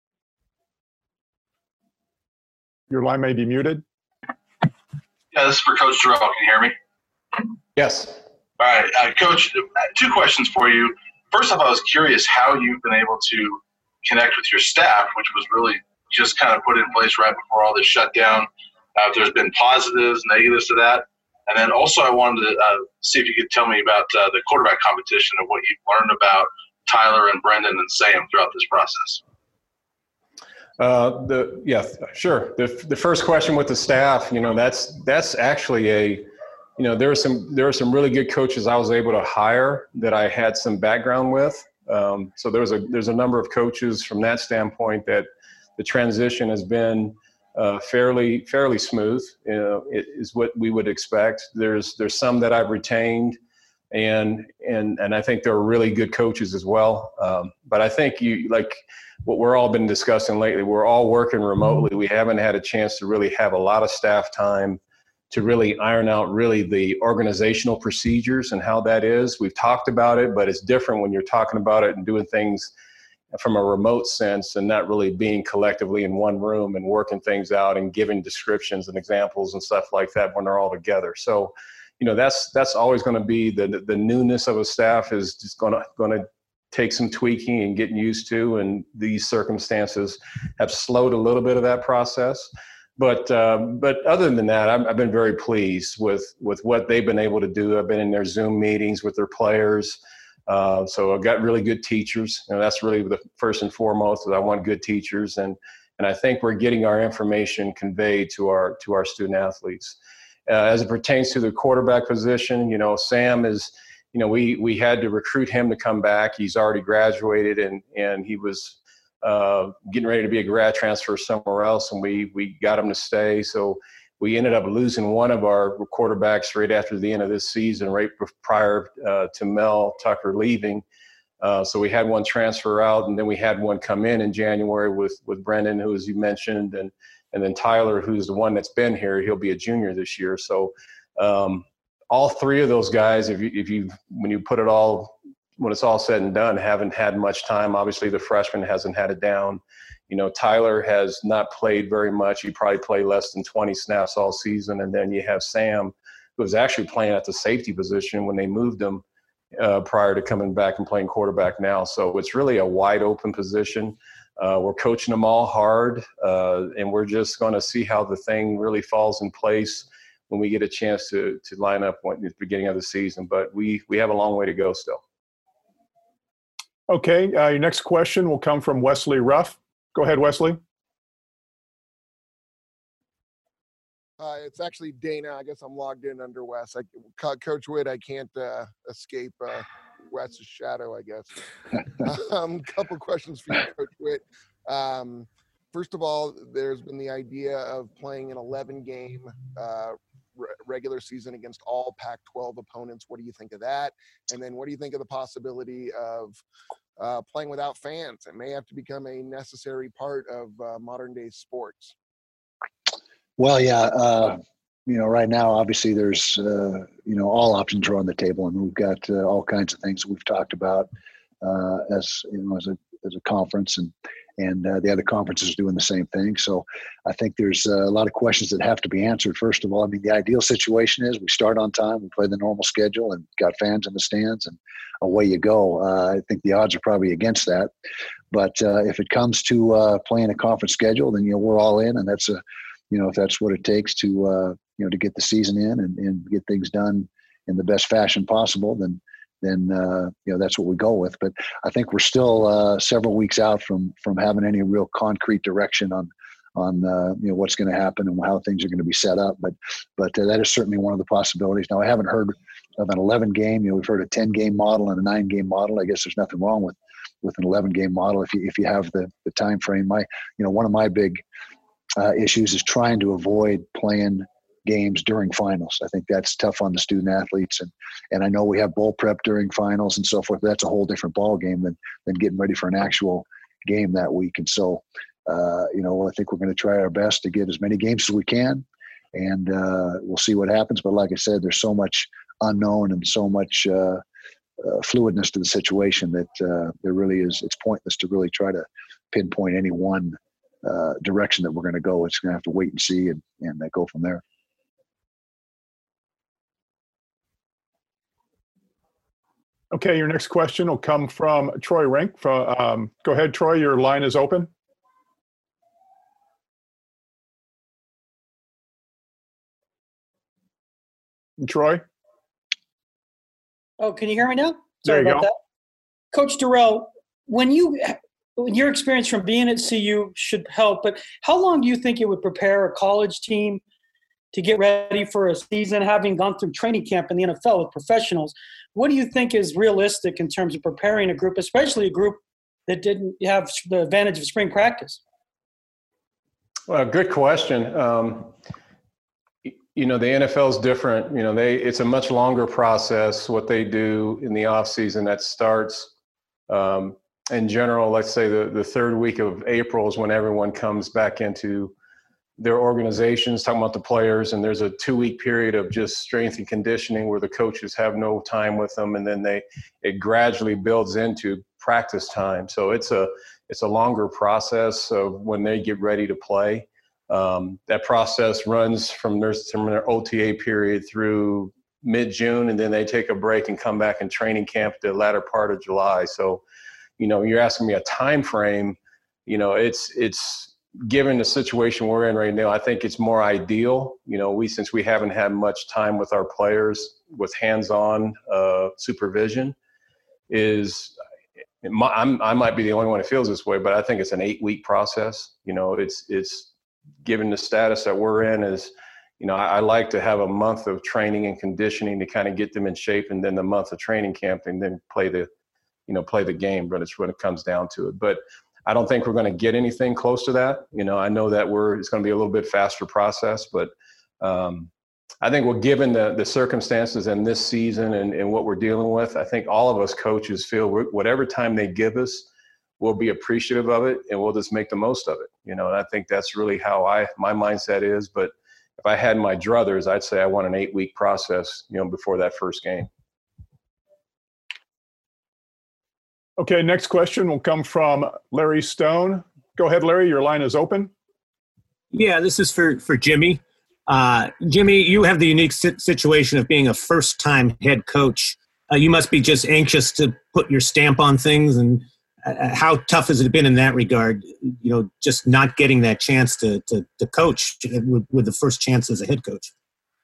Your line may be muted. Yeah, this is for Coach Terrell. Can you hear me? Yes. All right, Coach, 2 questions for you. First off, I was curious how you've been able to connect with your staff, which was really just kind of put in place right before all this shutdown. If there's been positives, negatives to that. And then also I wanted to see if you could tell me about the quarterback competition and what you've learned about Tyler and Brendan and Sam throughout this process. Sure. The first question with the staff, that's actually there are some really good coaches I was able to hire that I had some background with. So there's a number of coaches from that standpoint that the transition has been fairly smooth. It is what we would expect. There's some that I've retained, and I think they're really good coaches as well. But I think what we're all been discussing lately, we're all working remotely. We haven't had a chance to really have a lot of staff time to really iron out really the organizational procedures and how that is. We've talked about it, but it's different when you're talking about it and doing things from a remote sense and not really being collectively in one room and working things out and giving descriptions and examples and stuff like that when they're all together. So, that's always going to be the newness of a staff is just going to take some tweaking and getting used to, and these circumstances have slowed a little bit of that process. But other than that, I've been very pleased with what they've been able to do. I've been in their Zoom meetings with their players. So I've got really good teachers. That's really the first and foremost, is I want good teachers. And I think we're getting our information conveyed to our student athletes. As it pertains to the quarterback position, Sam is, we had to recruit him to come back. He's already graduated and he was getting ready to be a grad transfer somewhere else, and we got him to stay. So we ended up losing one of our quarterbacks right after the end of this season, right prior to Mel Tucker leaving. So we had one transfer out, and then we had one come in January with Brendan, who, as you mentioned, and then Tyler, who's the one that's been here. He'll be a junior this year. So all 3 of those guys, when it's all said and done, haven't had much time. Obviously, the freshman hasn't had it down. Tyler has not played very much. He probably played less than 20 snaps all season. And then you have Sam, who was actually playing at the safety position when they moved him prior to coming back and playing quarterback now. So it's really a wide open position. We're coaching them all hard, and we're just going to see how the thing really falls in place when we get a chance to line up at the beginning of the season. But we have a long way to go still. Okay, your next question will come from Wesley Ruff. Go ahead, Wesley. It's actually Dana. I guess I'm logged in under Wes. Coach Witt, I can't escape Wes's shadow, I guess. Couple questions for you, Coach Witt. First of all, there's been the idea of playing an 11-game regular season against all Pac-12 opponents. What do you think of that? And then what do you think of the possibility of playing without fans? It may have to become a necessary part of modern-day sports. Well, yeah. Right now, obviously, there's, all options are on the table, and we've got all kinds of things we've talked about as a conference, and the other conferences are doing the same thing. So I think there's a lot of questions that have to be answered. First of all, the ideal situation is we start on time, we play the normal schedule, and got fans in the stands, and away you go. I think the odds are probably against that. But if it comes to playing a conference schedule, then, we're all in, and that's if that's what it takes to to get the season in and get things done in the best fashion possible, then then that's what we go with. But I think we're still several weeks out from having any real concrete direction on what's going to happen and how things are going to be set up. But that is certainly one of the possibilities. Now, I haven't heard of an 11 game. We've heard a 10 game model and a 9 game model. I guess there's nothing wrong with an 11 game model if you have the time frame. One of my big issues is trying to avoid playing games during finals. I think that's tough on the student athletes, and I know we have bowl prep during finals and so forth. But that's a whole different ball game than getting ready for an actual game that week. And so, I think we're going to try our best to get as many games as we can, and we'll see what happens. But like I said, there's so much unknown and so much fluidness to the situation that there really is. It's pointless to really try to pinpoint any one direction that we're going to go. It's going to have to wait and see and go from there. Okay, your next question will come from Troy Rink. Go ahead, Troy. Your line is open. Troy? Oh, can you hear me now? Sorry about that. Coach Dorrell, when your experience from being at CU should help, but how long do you think it would prepare a college team to get ready for a season, having gone through training camp in the NFL with professionals? What do you think is realistic in terms of preparing a group, especially a group that didn't have the advantage of spring practice? Well, good question. The NFL is different. It's a much longer process, what they do in the off season that starts in general, let's say the third week of April is when everyone comes back into their organizations, talking about the players, and there's a 2-week period of just strength and conditioning where the coaches have no time with them, and then it gradually builds into practice time. So it's a longer process of when they get ready to play. That process runs from their OTA period through mid-June, and then they take a break and come back in training camp the latter part of July. So, you're asking me a time frame. It's given the situation we're in right now, I think it's more ideal. Since we haven't had much time with our players with hands-on supervision, I might be the only one who feels this way, but I think it's an 8-week process. It's given the status that we're in is, I like to have a month of training and conditioning to kind of get them in shape, and then the month of training camp, and then play the game. But it's when it comes down to it. But I don't think we're going to get anything close to that. I know that it's going to be a little bit faster process, but I think given the circumstances in this season and what we're dealing with, I think all of us coaches feel whatever time they give us, we'll be appreciative of it, and we'll just make the most of it. And I think that's really how my mindset is. But if I had my druthers, I'd say I want an 8-week process, before that first game. Okay, next question will come from Larry Stone. Go ahead, Larry. Your line is open. Yeah, this is for Jimmy. Jimmy, you have the unique situation of being a first-time head coach. You must be just anxious to put your stamp on things. And how tough has it been in that regard, just not getting that chance to coach with the first chance as a head coach?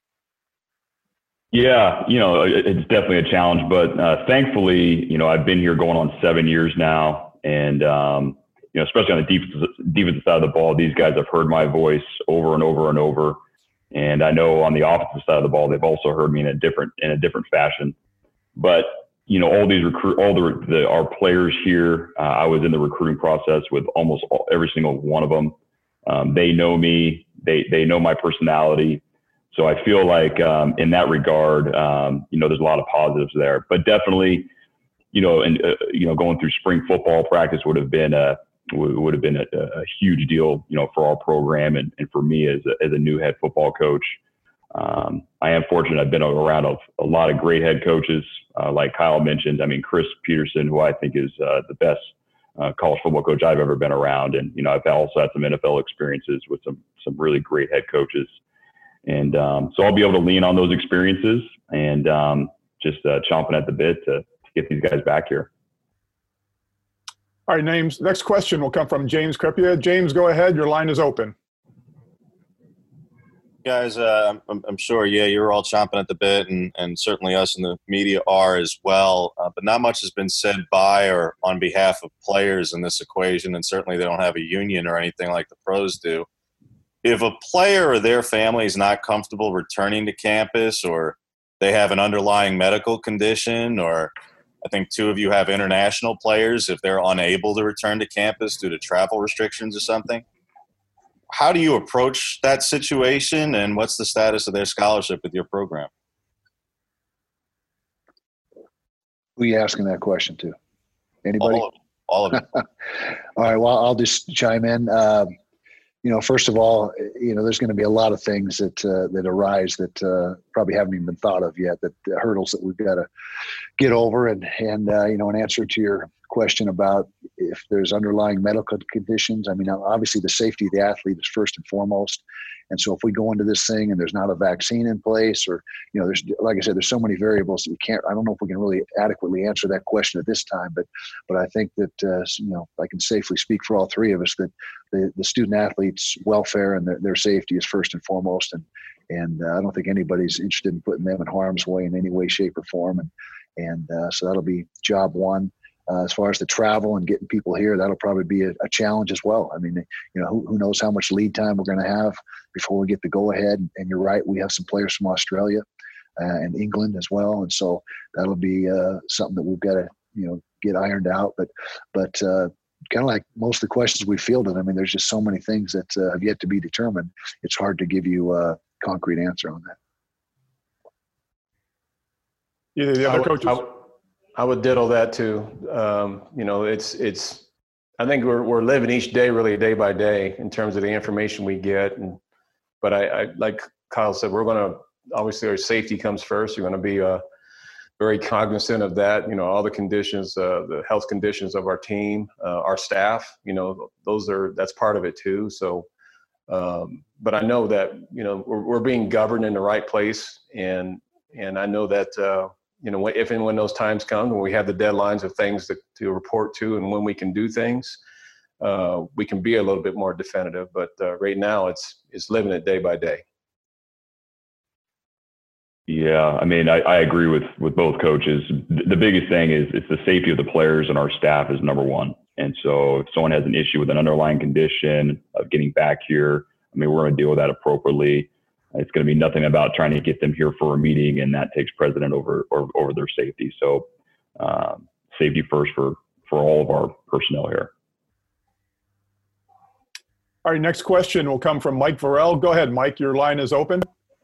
Yeah, it's definitely a challenge, but thankfully, I've been here going on 7 years now, and especially on the defensive side of the ball, these guys have heard my voice over and over and over, and I know on the offensive side of the ball, they've also heard me in a different fashion. But all these our players here, I was in the recruiting process with almost every single one of them. They know me, they know my personality. So I feel like in that regard, there's a lot of positives there. But definitely, going through spring football practice would have been a huge deal, for our program and for me as a new head football coach. I am fortunate. I've been around a lot of great head coaches, like Kyle mentioned. I mean, Chris Peterson, who I think is the best college football coach I've ever been around, and I've also had some NFL experiences with some really great head coaches. And so I'll be able to lean on those experiences and just chomping at the bit to get these guys back here. All right, next question will come from James Crepia. James, go ahead. Your line is open. guys, I'm sure, you're all chomping at the bit, and certainly us in the media are as well. But not much has been said by or on behalf of players in this equation, and certainly they don't have a union or anything like the pros do. If a player or their family is not comfortable returning to campus, or they have an underlying medical condition, or I think two of you have international players, if they're unable to return to campus due to travel restrictions or something, how do you approach that situation, and what's the status of their scholarship with your program? Who are you asking that question to? Anybody? All of it. All right. Well, I'll just chime in. First of all, there's going to be a lot of things that arise that probably haven't even been thought of yet, that hurdles that we've got to get over. And in answer to your question about if there's underlying medical conditions, I mean, obviously the safety of the athlete is first and foremost. And so if we go into this thing and there's not a vaccine in place, or, there's, like I said, there's so many variables that I don't know if we can really adequately answer that question at this time, but I think that, I can safely speak for all three of us that the student athletes' welfare and their safety is first and foremost. And I don't think anybody's interested in putting them in harm's way in any way, shape, or form. And so that'll be job one. As far as the travel and getting people here, that'll probably be a challenge as well. I mean, who knows how much lead time we're going to have before we get the go ahead. And you're right, we have some players from Australia and England as well. And so that'll be something that we've got to, get ironed out. But kind of like most of the questions we fielded, I mean, there's just so many things that have yet to be determined. It's hard to give you a concrete answer on that. Either the other coaches? I would diddle that too. It's. I think we're living each day really day by day in terms of the information we get. But I like Kyle said, we're going to obviously our safety comes first. You're going to be very cognizant of that. All the conditions, the health conditions of our team, our staff. That's part of it too. So, but I know that we're being governed in the right place, and I know that. If and when those times come, when we have the deadlines of things to report to and when we can do things, we can be a little bit more definitive. But right now, it's living it day by day. Yeah, I mean, I agree with both coaches. The biggest thing is it's the safety of the players and our staff is number one. And so if someone has an issue with an underlying condition of getting back here, I mean, we're going to deal with that appropriately. It's going to be nothing about trying to get them here for a meeting, and that takes precedent over their safety. So safety first for all of our personnel here. All right, next question will come from Mike Varell. Go ahead, Mike. Your line is open.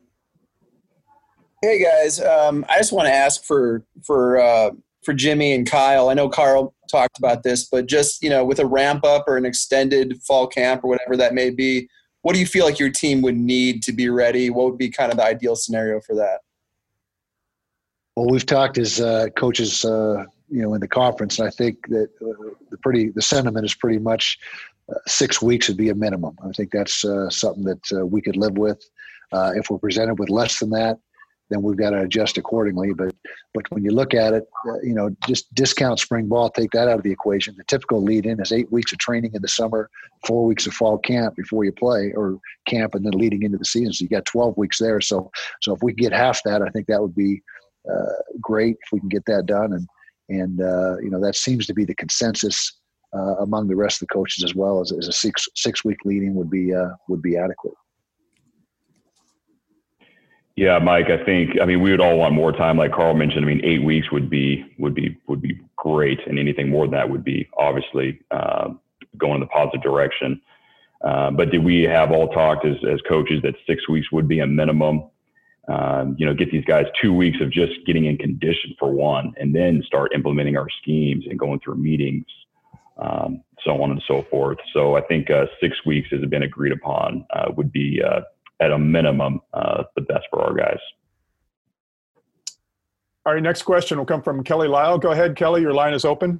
Hey, guys. I just want to ask for Jimmy and Kyle. I know Carl talked about this, but just, with a ramp up or an extended fall camp or whatever that may be, what do you feel like your team would need to be ready? What would be kind of the ideal scenario for that? Well, we've talked as coaches, in the conference, and I think that the sentiment is pretty much 6 weeks would be a minimum. I think that's something that we could live with. If we're presented with less than that, then we've got to adjust accordingly. But when you look at it, just discount spring ball, take that out of the equation. The typical lead-in is 8 weeks of training in the summer, 4 weeks of fall camp before you play, or camp and then leading into the season. So you got 12 weeks there. So if we get half that, I think that would be great if we can get that done. And that seems to be the consensus among the rest of the coaches as well, as a six week lead-in would be adequate. Yeah, Mike, we would all want more time. Like Carl mentioned, 8 weeks would be great. And anything more than that would be obviously going in the positive direction. But did we have all talked as coaches that 6 weeks would be a minimum? Get these guys 2 weeks of just getting in condition for one, and then start implementing our schemes and going through meetings, so on and so forth. So I think 6 weeks has been agreed upon would be at a minimum, the best for our guys. All right, next question will come from Kelly Lyle. Go ahead, Kelly. Your line is open.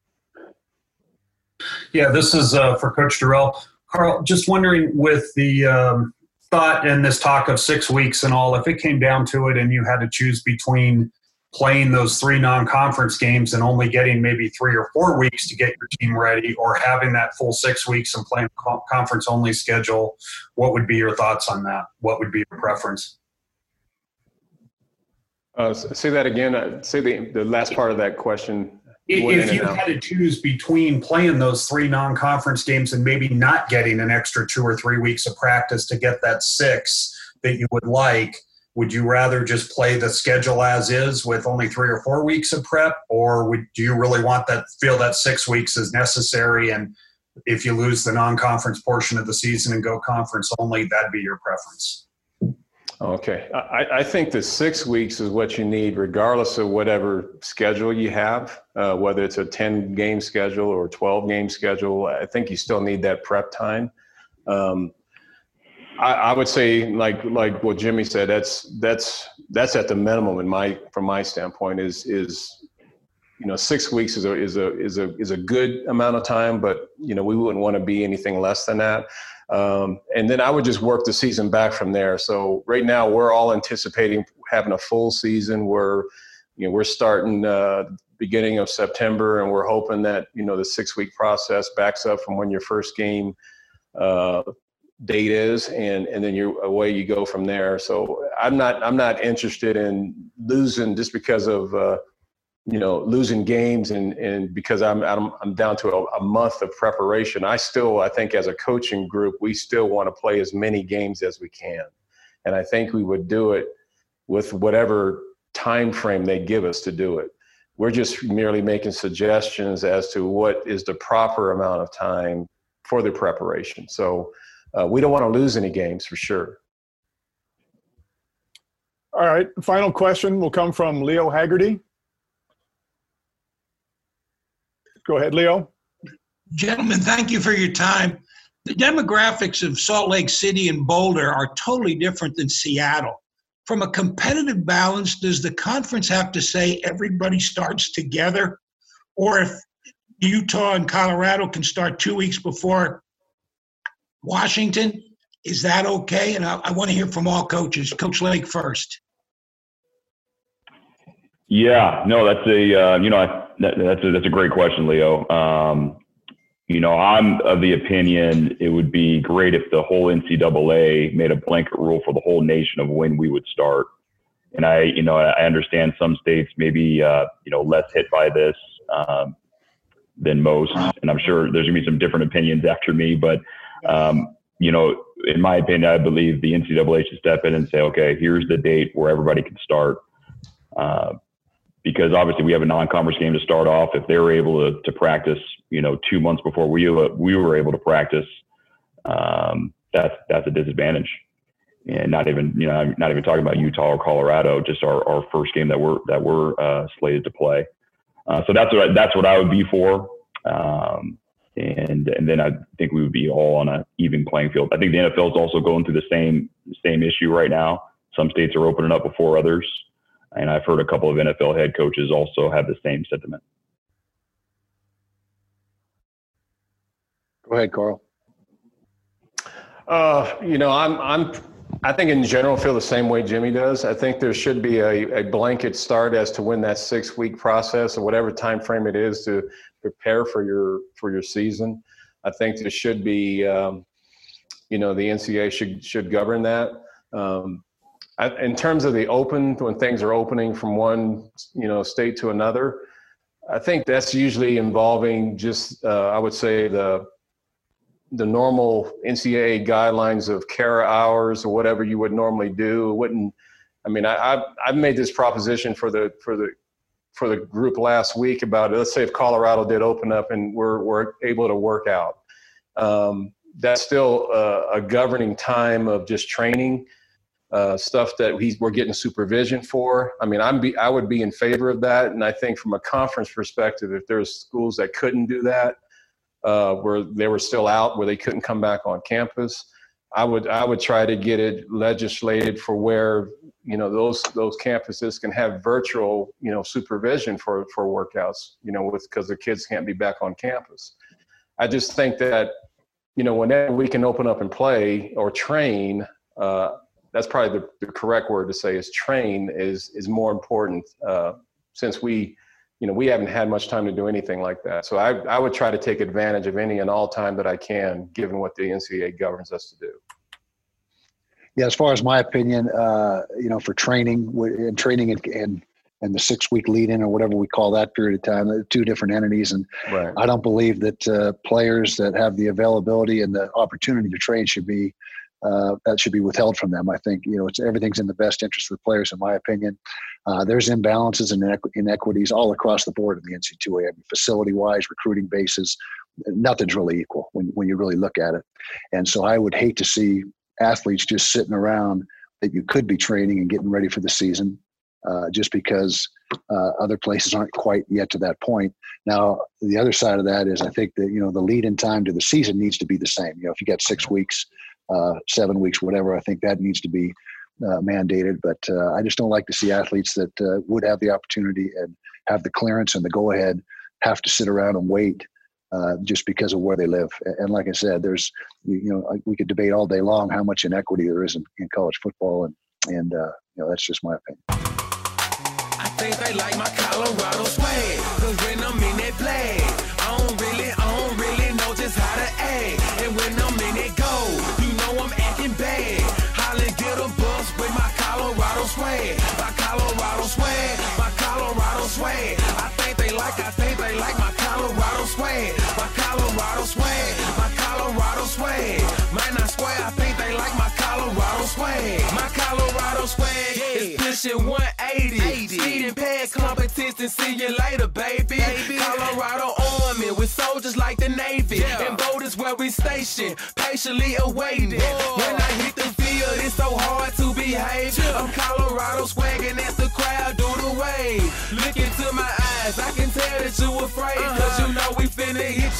Yeah, this is for Coach Dorrell. Carl, just wondering with the thought and this talk of 6 weeks and all, if it came down to it and you had to choose between playing those 3 non-conference games and only getting maybe 3 or 4 weeks to get your team ready, or having that full 6 weeks and playing conference-only schedule? What would be your thoughts on that? What would be your preference? Say that again. Say the last part of that question. If you had to choose between playing those 3 non-conference games and maybe not getting an extra 2 or 3 weeks of practice to get that 6 that you would like, would you rather just play the schedule as is with only 3 or 4 weeks of prep, or do you really feel that 6 weeks is necessary, and if you lose the non-conference portion of the season and go conference only, that'd be your preference? Okay. I think the 6 weeks is what you need regardless of whatever schedule you have, whether it's a 10-game schedule or 12-game schedule. I think you still need that prep time. I would say, like what Jimmy said, that's at the minimum from my standpoint. Is 6 weeks is a good amount of time, but we wouldn't want to be anything less than that. And then I would just work the season back from there. So right now we're all anticipating having a full season. We're starting beginning of September, and we're hoping that the 6-week process backs up from when your first game date is, and then away you go from there. So I'm not interested in losing just because of losing games and because I'm down to a month of preparation. I think as a coaching group, we still want to play as many games as we can, and I think we would do it with whatever time frame they give us to do it. We're just merely making suggestions as to what is the proper amount of time for the preparation. So we don't want to lose any games for sure. All right. Final question will come from Leo Haggerty. Go ahead, Leo. Gentlemen, thank you for your time. The demographics of Salt Lake City and Boulder are totally different than Seattle. From a competitive balance, does the conference have to say everybody starts together? Or if Utah and Colorado can start 2 weeks before Washington, is that okay? And I want to hear from all coaches. Coach Lake first. Yeah, no, that's a great question, Leo. I'm of the opinion it would be great if the whole NCAA made a blanket rule for the whole nation of when we would start. And I understand some states maybe less hit by this than most, and I'm sure there's gonna be some different opinions after me, but in my opinion, I believe the NCAA should step in and say, okay, here's the date where everybody can start. Because obviously we have a non-conference game to start off. If they were able to practice, 2 months before we were able to practice, that's a disadvantage. And not even talking about Utah or Colorado, just our first game that we're slated to play. So that's what I would be for. And then I think we would be all on an even playing field. I think the NFL is also going through the same issue right now. Some states are opening up before others. And I've heard a couple of NFL head coaches also have the same sentiment. Go ahead, Carl. I think in general feel the same way Jimmy does. I think there should be a blanket start as to when that 6-week process or whatever time frame it is to prepare for your season. I think there should be, the NCAA should govern that. In terms of the when things are opening from one, state to another, I think that's usually involving just, I would say the normal NCAA guidelines of care hours or whatever you would normally do. I've made this proposition for the group last week about it. Let's say if Colorado did open up and we're able to work out, that's still a governing time of just training. Stuff that we're getting supervision for. I would be in favor of that. And I think from a conference perspective, if there's schools that couldn't do that, where they were still out, where they couldn't come back on campus, I would try to get it legislated for where, those campuses can have virtual, supervision for workouts, because the kids can't be back on campus. I just think that, whenever we can open up and play or train, that's probably the correct word to say is train is more important since we haven't had much time to do anything like that. So I would try to take advantage of any and all time that I can, given what the NCAA governs us to do. Yeah, as far as my opinion, for training and the 6-week lead-in or whatever we call that period of time, they're two different entities. And right. I don't believe that players that have the availability and the opportunity to train should be withheld from them. I think, everything's in the best interest of the players, in my opinion. There's imbalances and inequities all across the board in the NC2A. I mean, facility-wise, recruiting bases, nothing's really equal when you really look at it. And so I would hate to see athletes just sitting around that you could be training and getting ready for the season just because other places aren't quite yet to that point. Now, the other side of that is I think that, the lead-in time to the season needs to be the same. If you got 6 weeks, 7 weeks, whatever, I think that needs to be mandated. But I just don't like to see athletes that would have the opportunity and have the clearance and the go-ahead have to sit around and wait just because of where they live. And like I said, there's, we could debate all day long how much inequity there is in college football. And that's just my opinion. I think they like my Colorado swag, 'cause when I'm in that play, I don't really know just how to act. And when I'm in that go, I'm acting bad. Holly get a bus with my Colorado swag. My Colorado swag, my Colorado swag. I think they like my Colorado swag. My Colorado swag, my Colorado swag. Might not swear, I think they like my Colorado swag. My Colorado swag is pushing 180. Speeding past competition, see you later, baby. Colorado Army with soldiers like the Navy. And boat is where we station, patiently awaiting. When I hit the field, it's so hard to behave. I'm Colorado swagging as the crowd do the wave. Look into my eyes, I can tell that you afraid. 'Cause we finna hit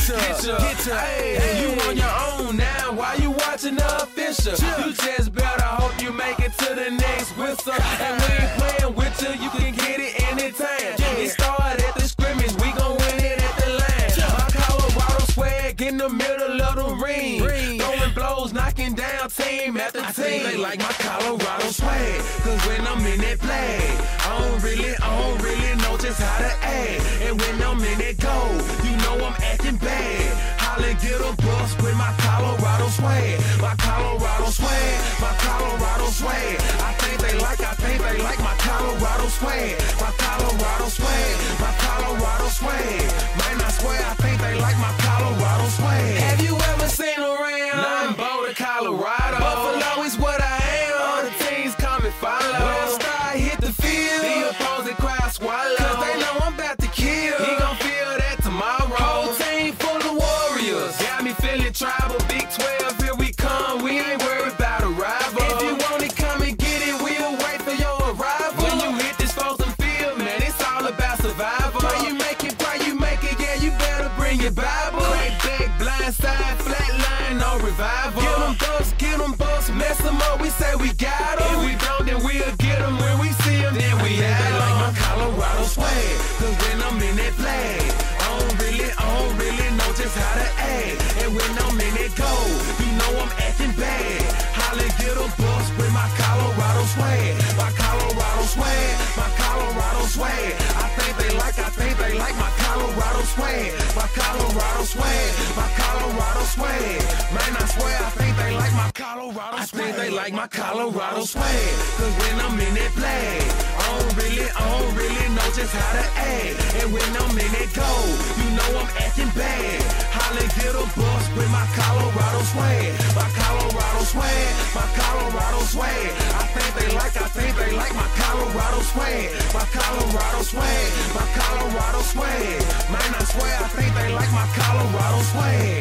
ya. Hey, you on your own now, why you watching the official? You just better hope you make it to the next whistle. And we ain't playing with you can get it anytime. It started at the scrimmage, we gon' win it at the line. My Colorado swag in the middle of the ring. Throwing blows, knocking down team after team. I think they like my Colorado swag, 'cause when I'm in that play, I don't really know just how to act. And when I'm in that go, I'm acting bad. Holly get a bus with my Colorado swag. My Colorado swag, my Colorado swag. I think they like my Colorado swag. My Colorado swag, my Colorado swag. Might not swear, I think they like my Colorado swag. Have you ever seen around? I'm Boulder, Colorado. Buffalo is what I am. All the teams come and follow. When I start hit the field, the opposing crowd swallow. 'Cause they know I'm about to kill. He gon' feel that tomorrow. Whole team full of warriors. Got me feeling tribal. Big 12, here we come. We ain't worried about a rival. If you want it, come and get it. We'll wait for your arrival. When you hit this frozen field, man, it's all about survival. Pray you make it, yeah, you better bring your Bible. Crack back, blind side, flat line, no revival. Get them busts, mess them up, we say we got them. If we don't, then we'll get them. When we see them, then we have them. They like my Colorado swag, 'cause when I'm in that play, I don't really know just how to act. And when I'm in that go, I'm acting bad. Holly get a bus with my Colorado swag. My Colorado swag, my Colorado swag. I think they like my Colorado swag. My Colorado swag, my Colorado swag. Man, I swear, I think they like my Colorado swag. I think they like my Colorado swag. 'Cause when I'm in that play, I don't really know just how to act. And when I'm in that go, I'm acting bad. Holly get a bus with my Colorado swag. My Colorado swag, my Colorado swag. I think they like my Colorado swag. My Colorado swag, my Colorado swag. Man, I swear, I think they like my Colorado swag.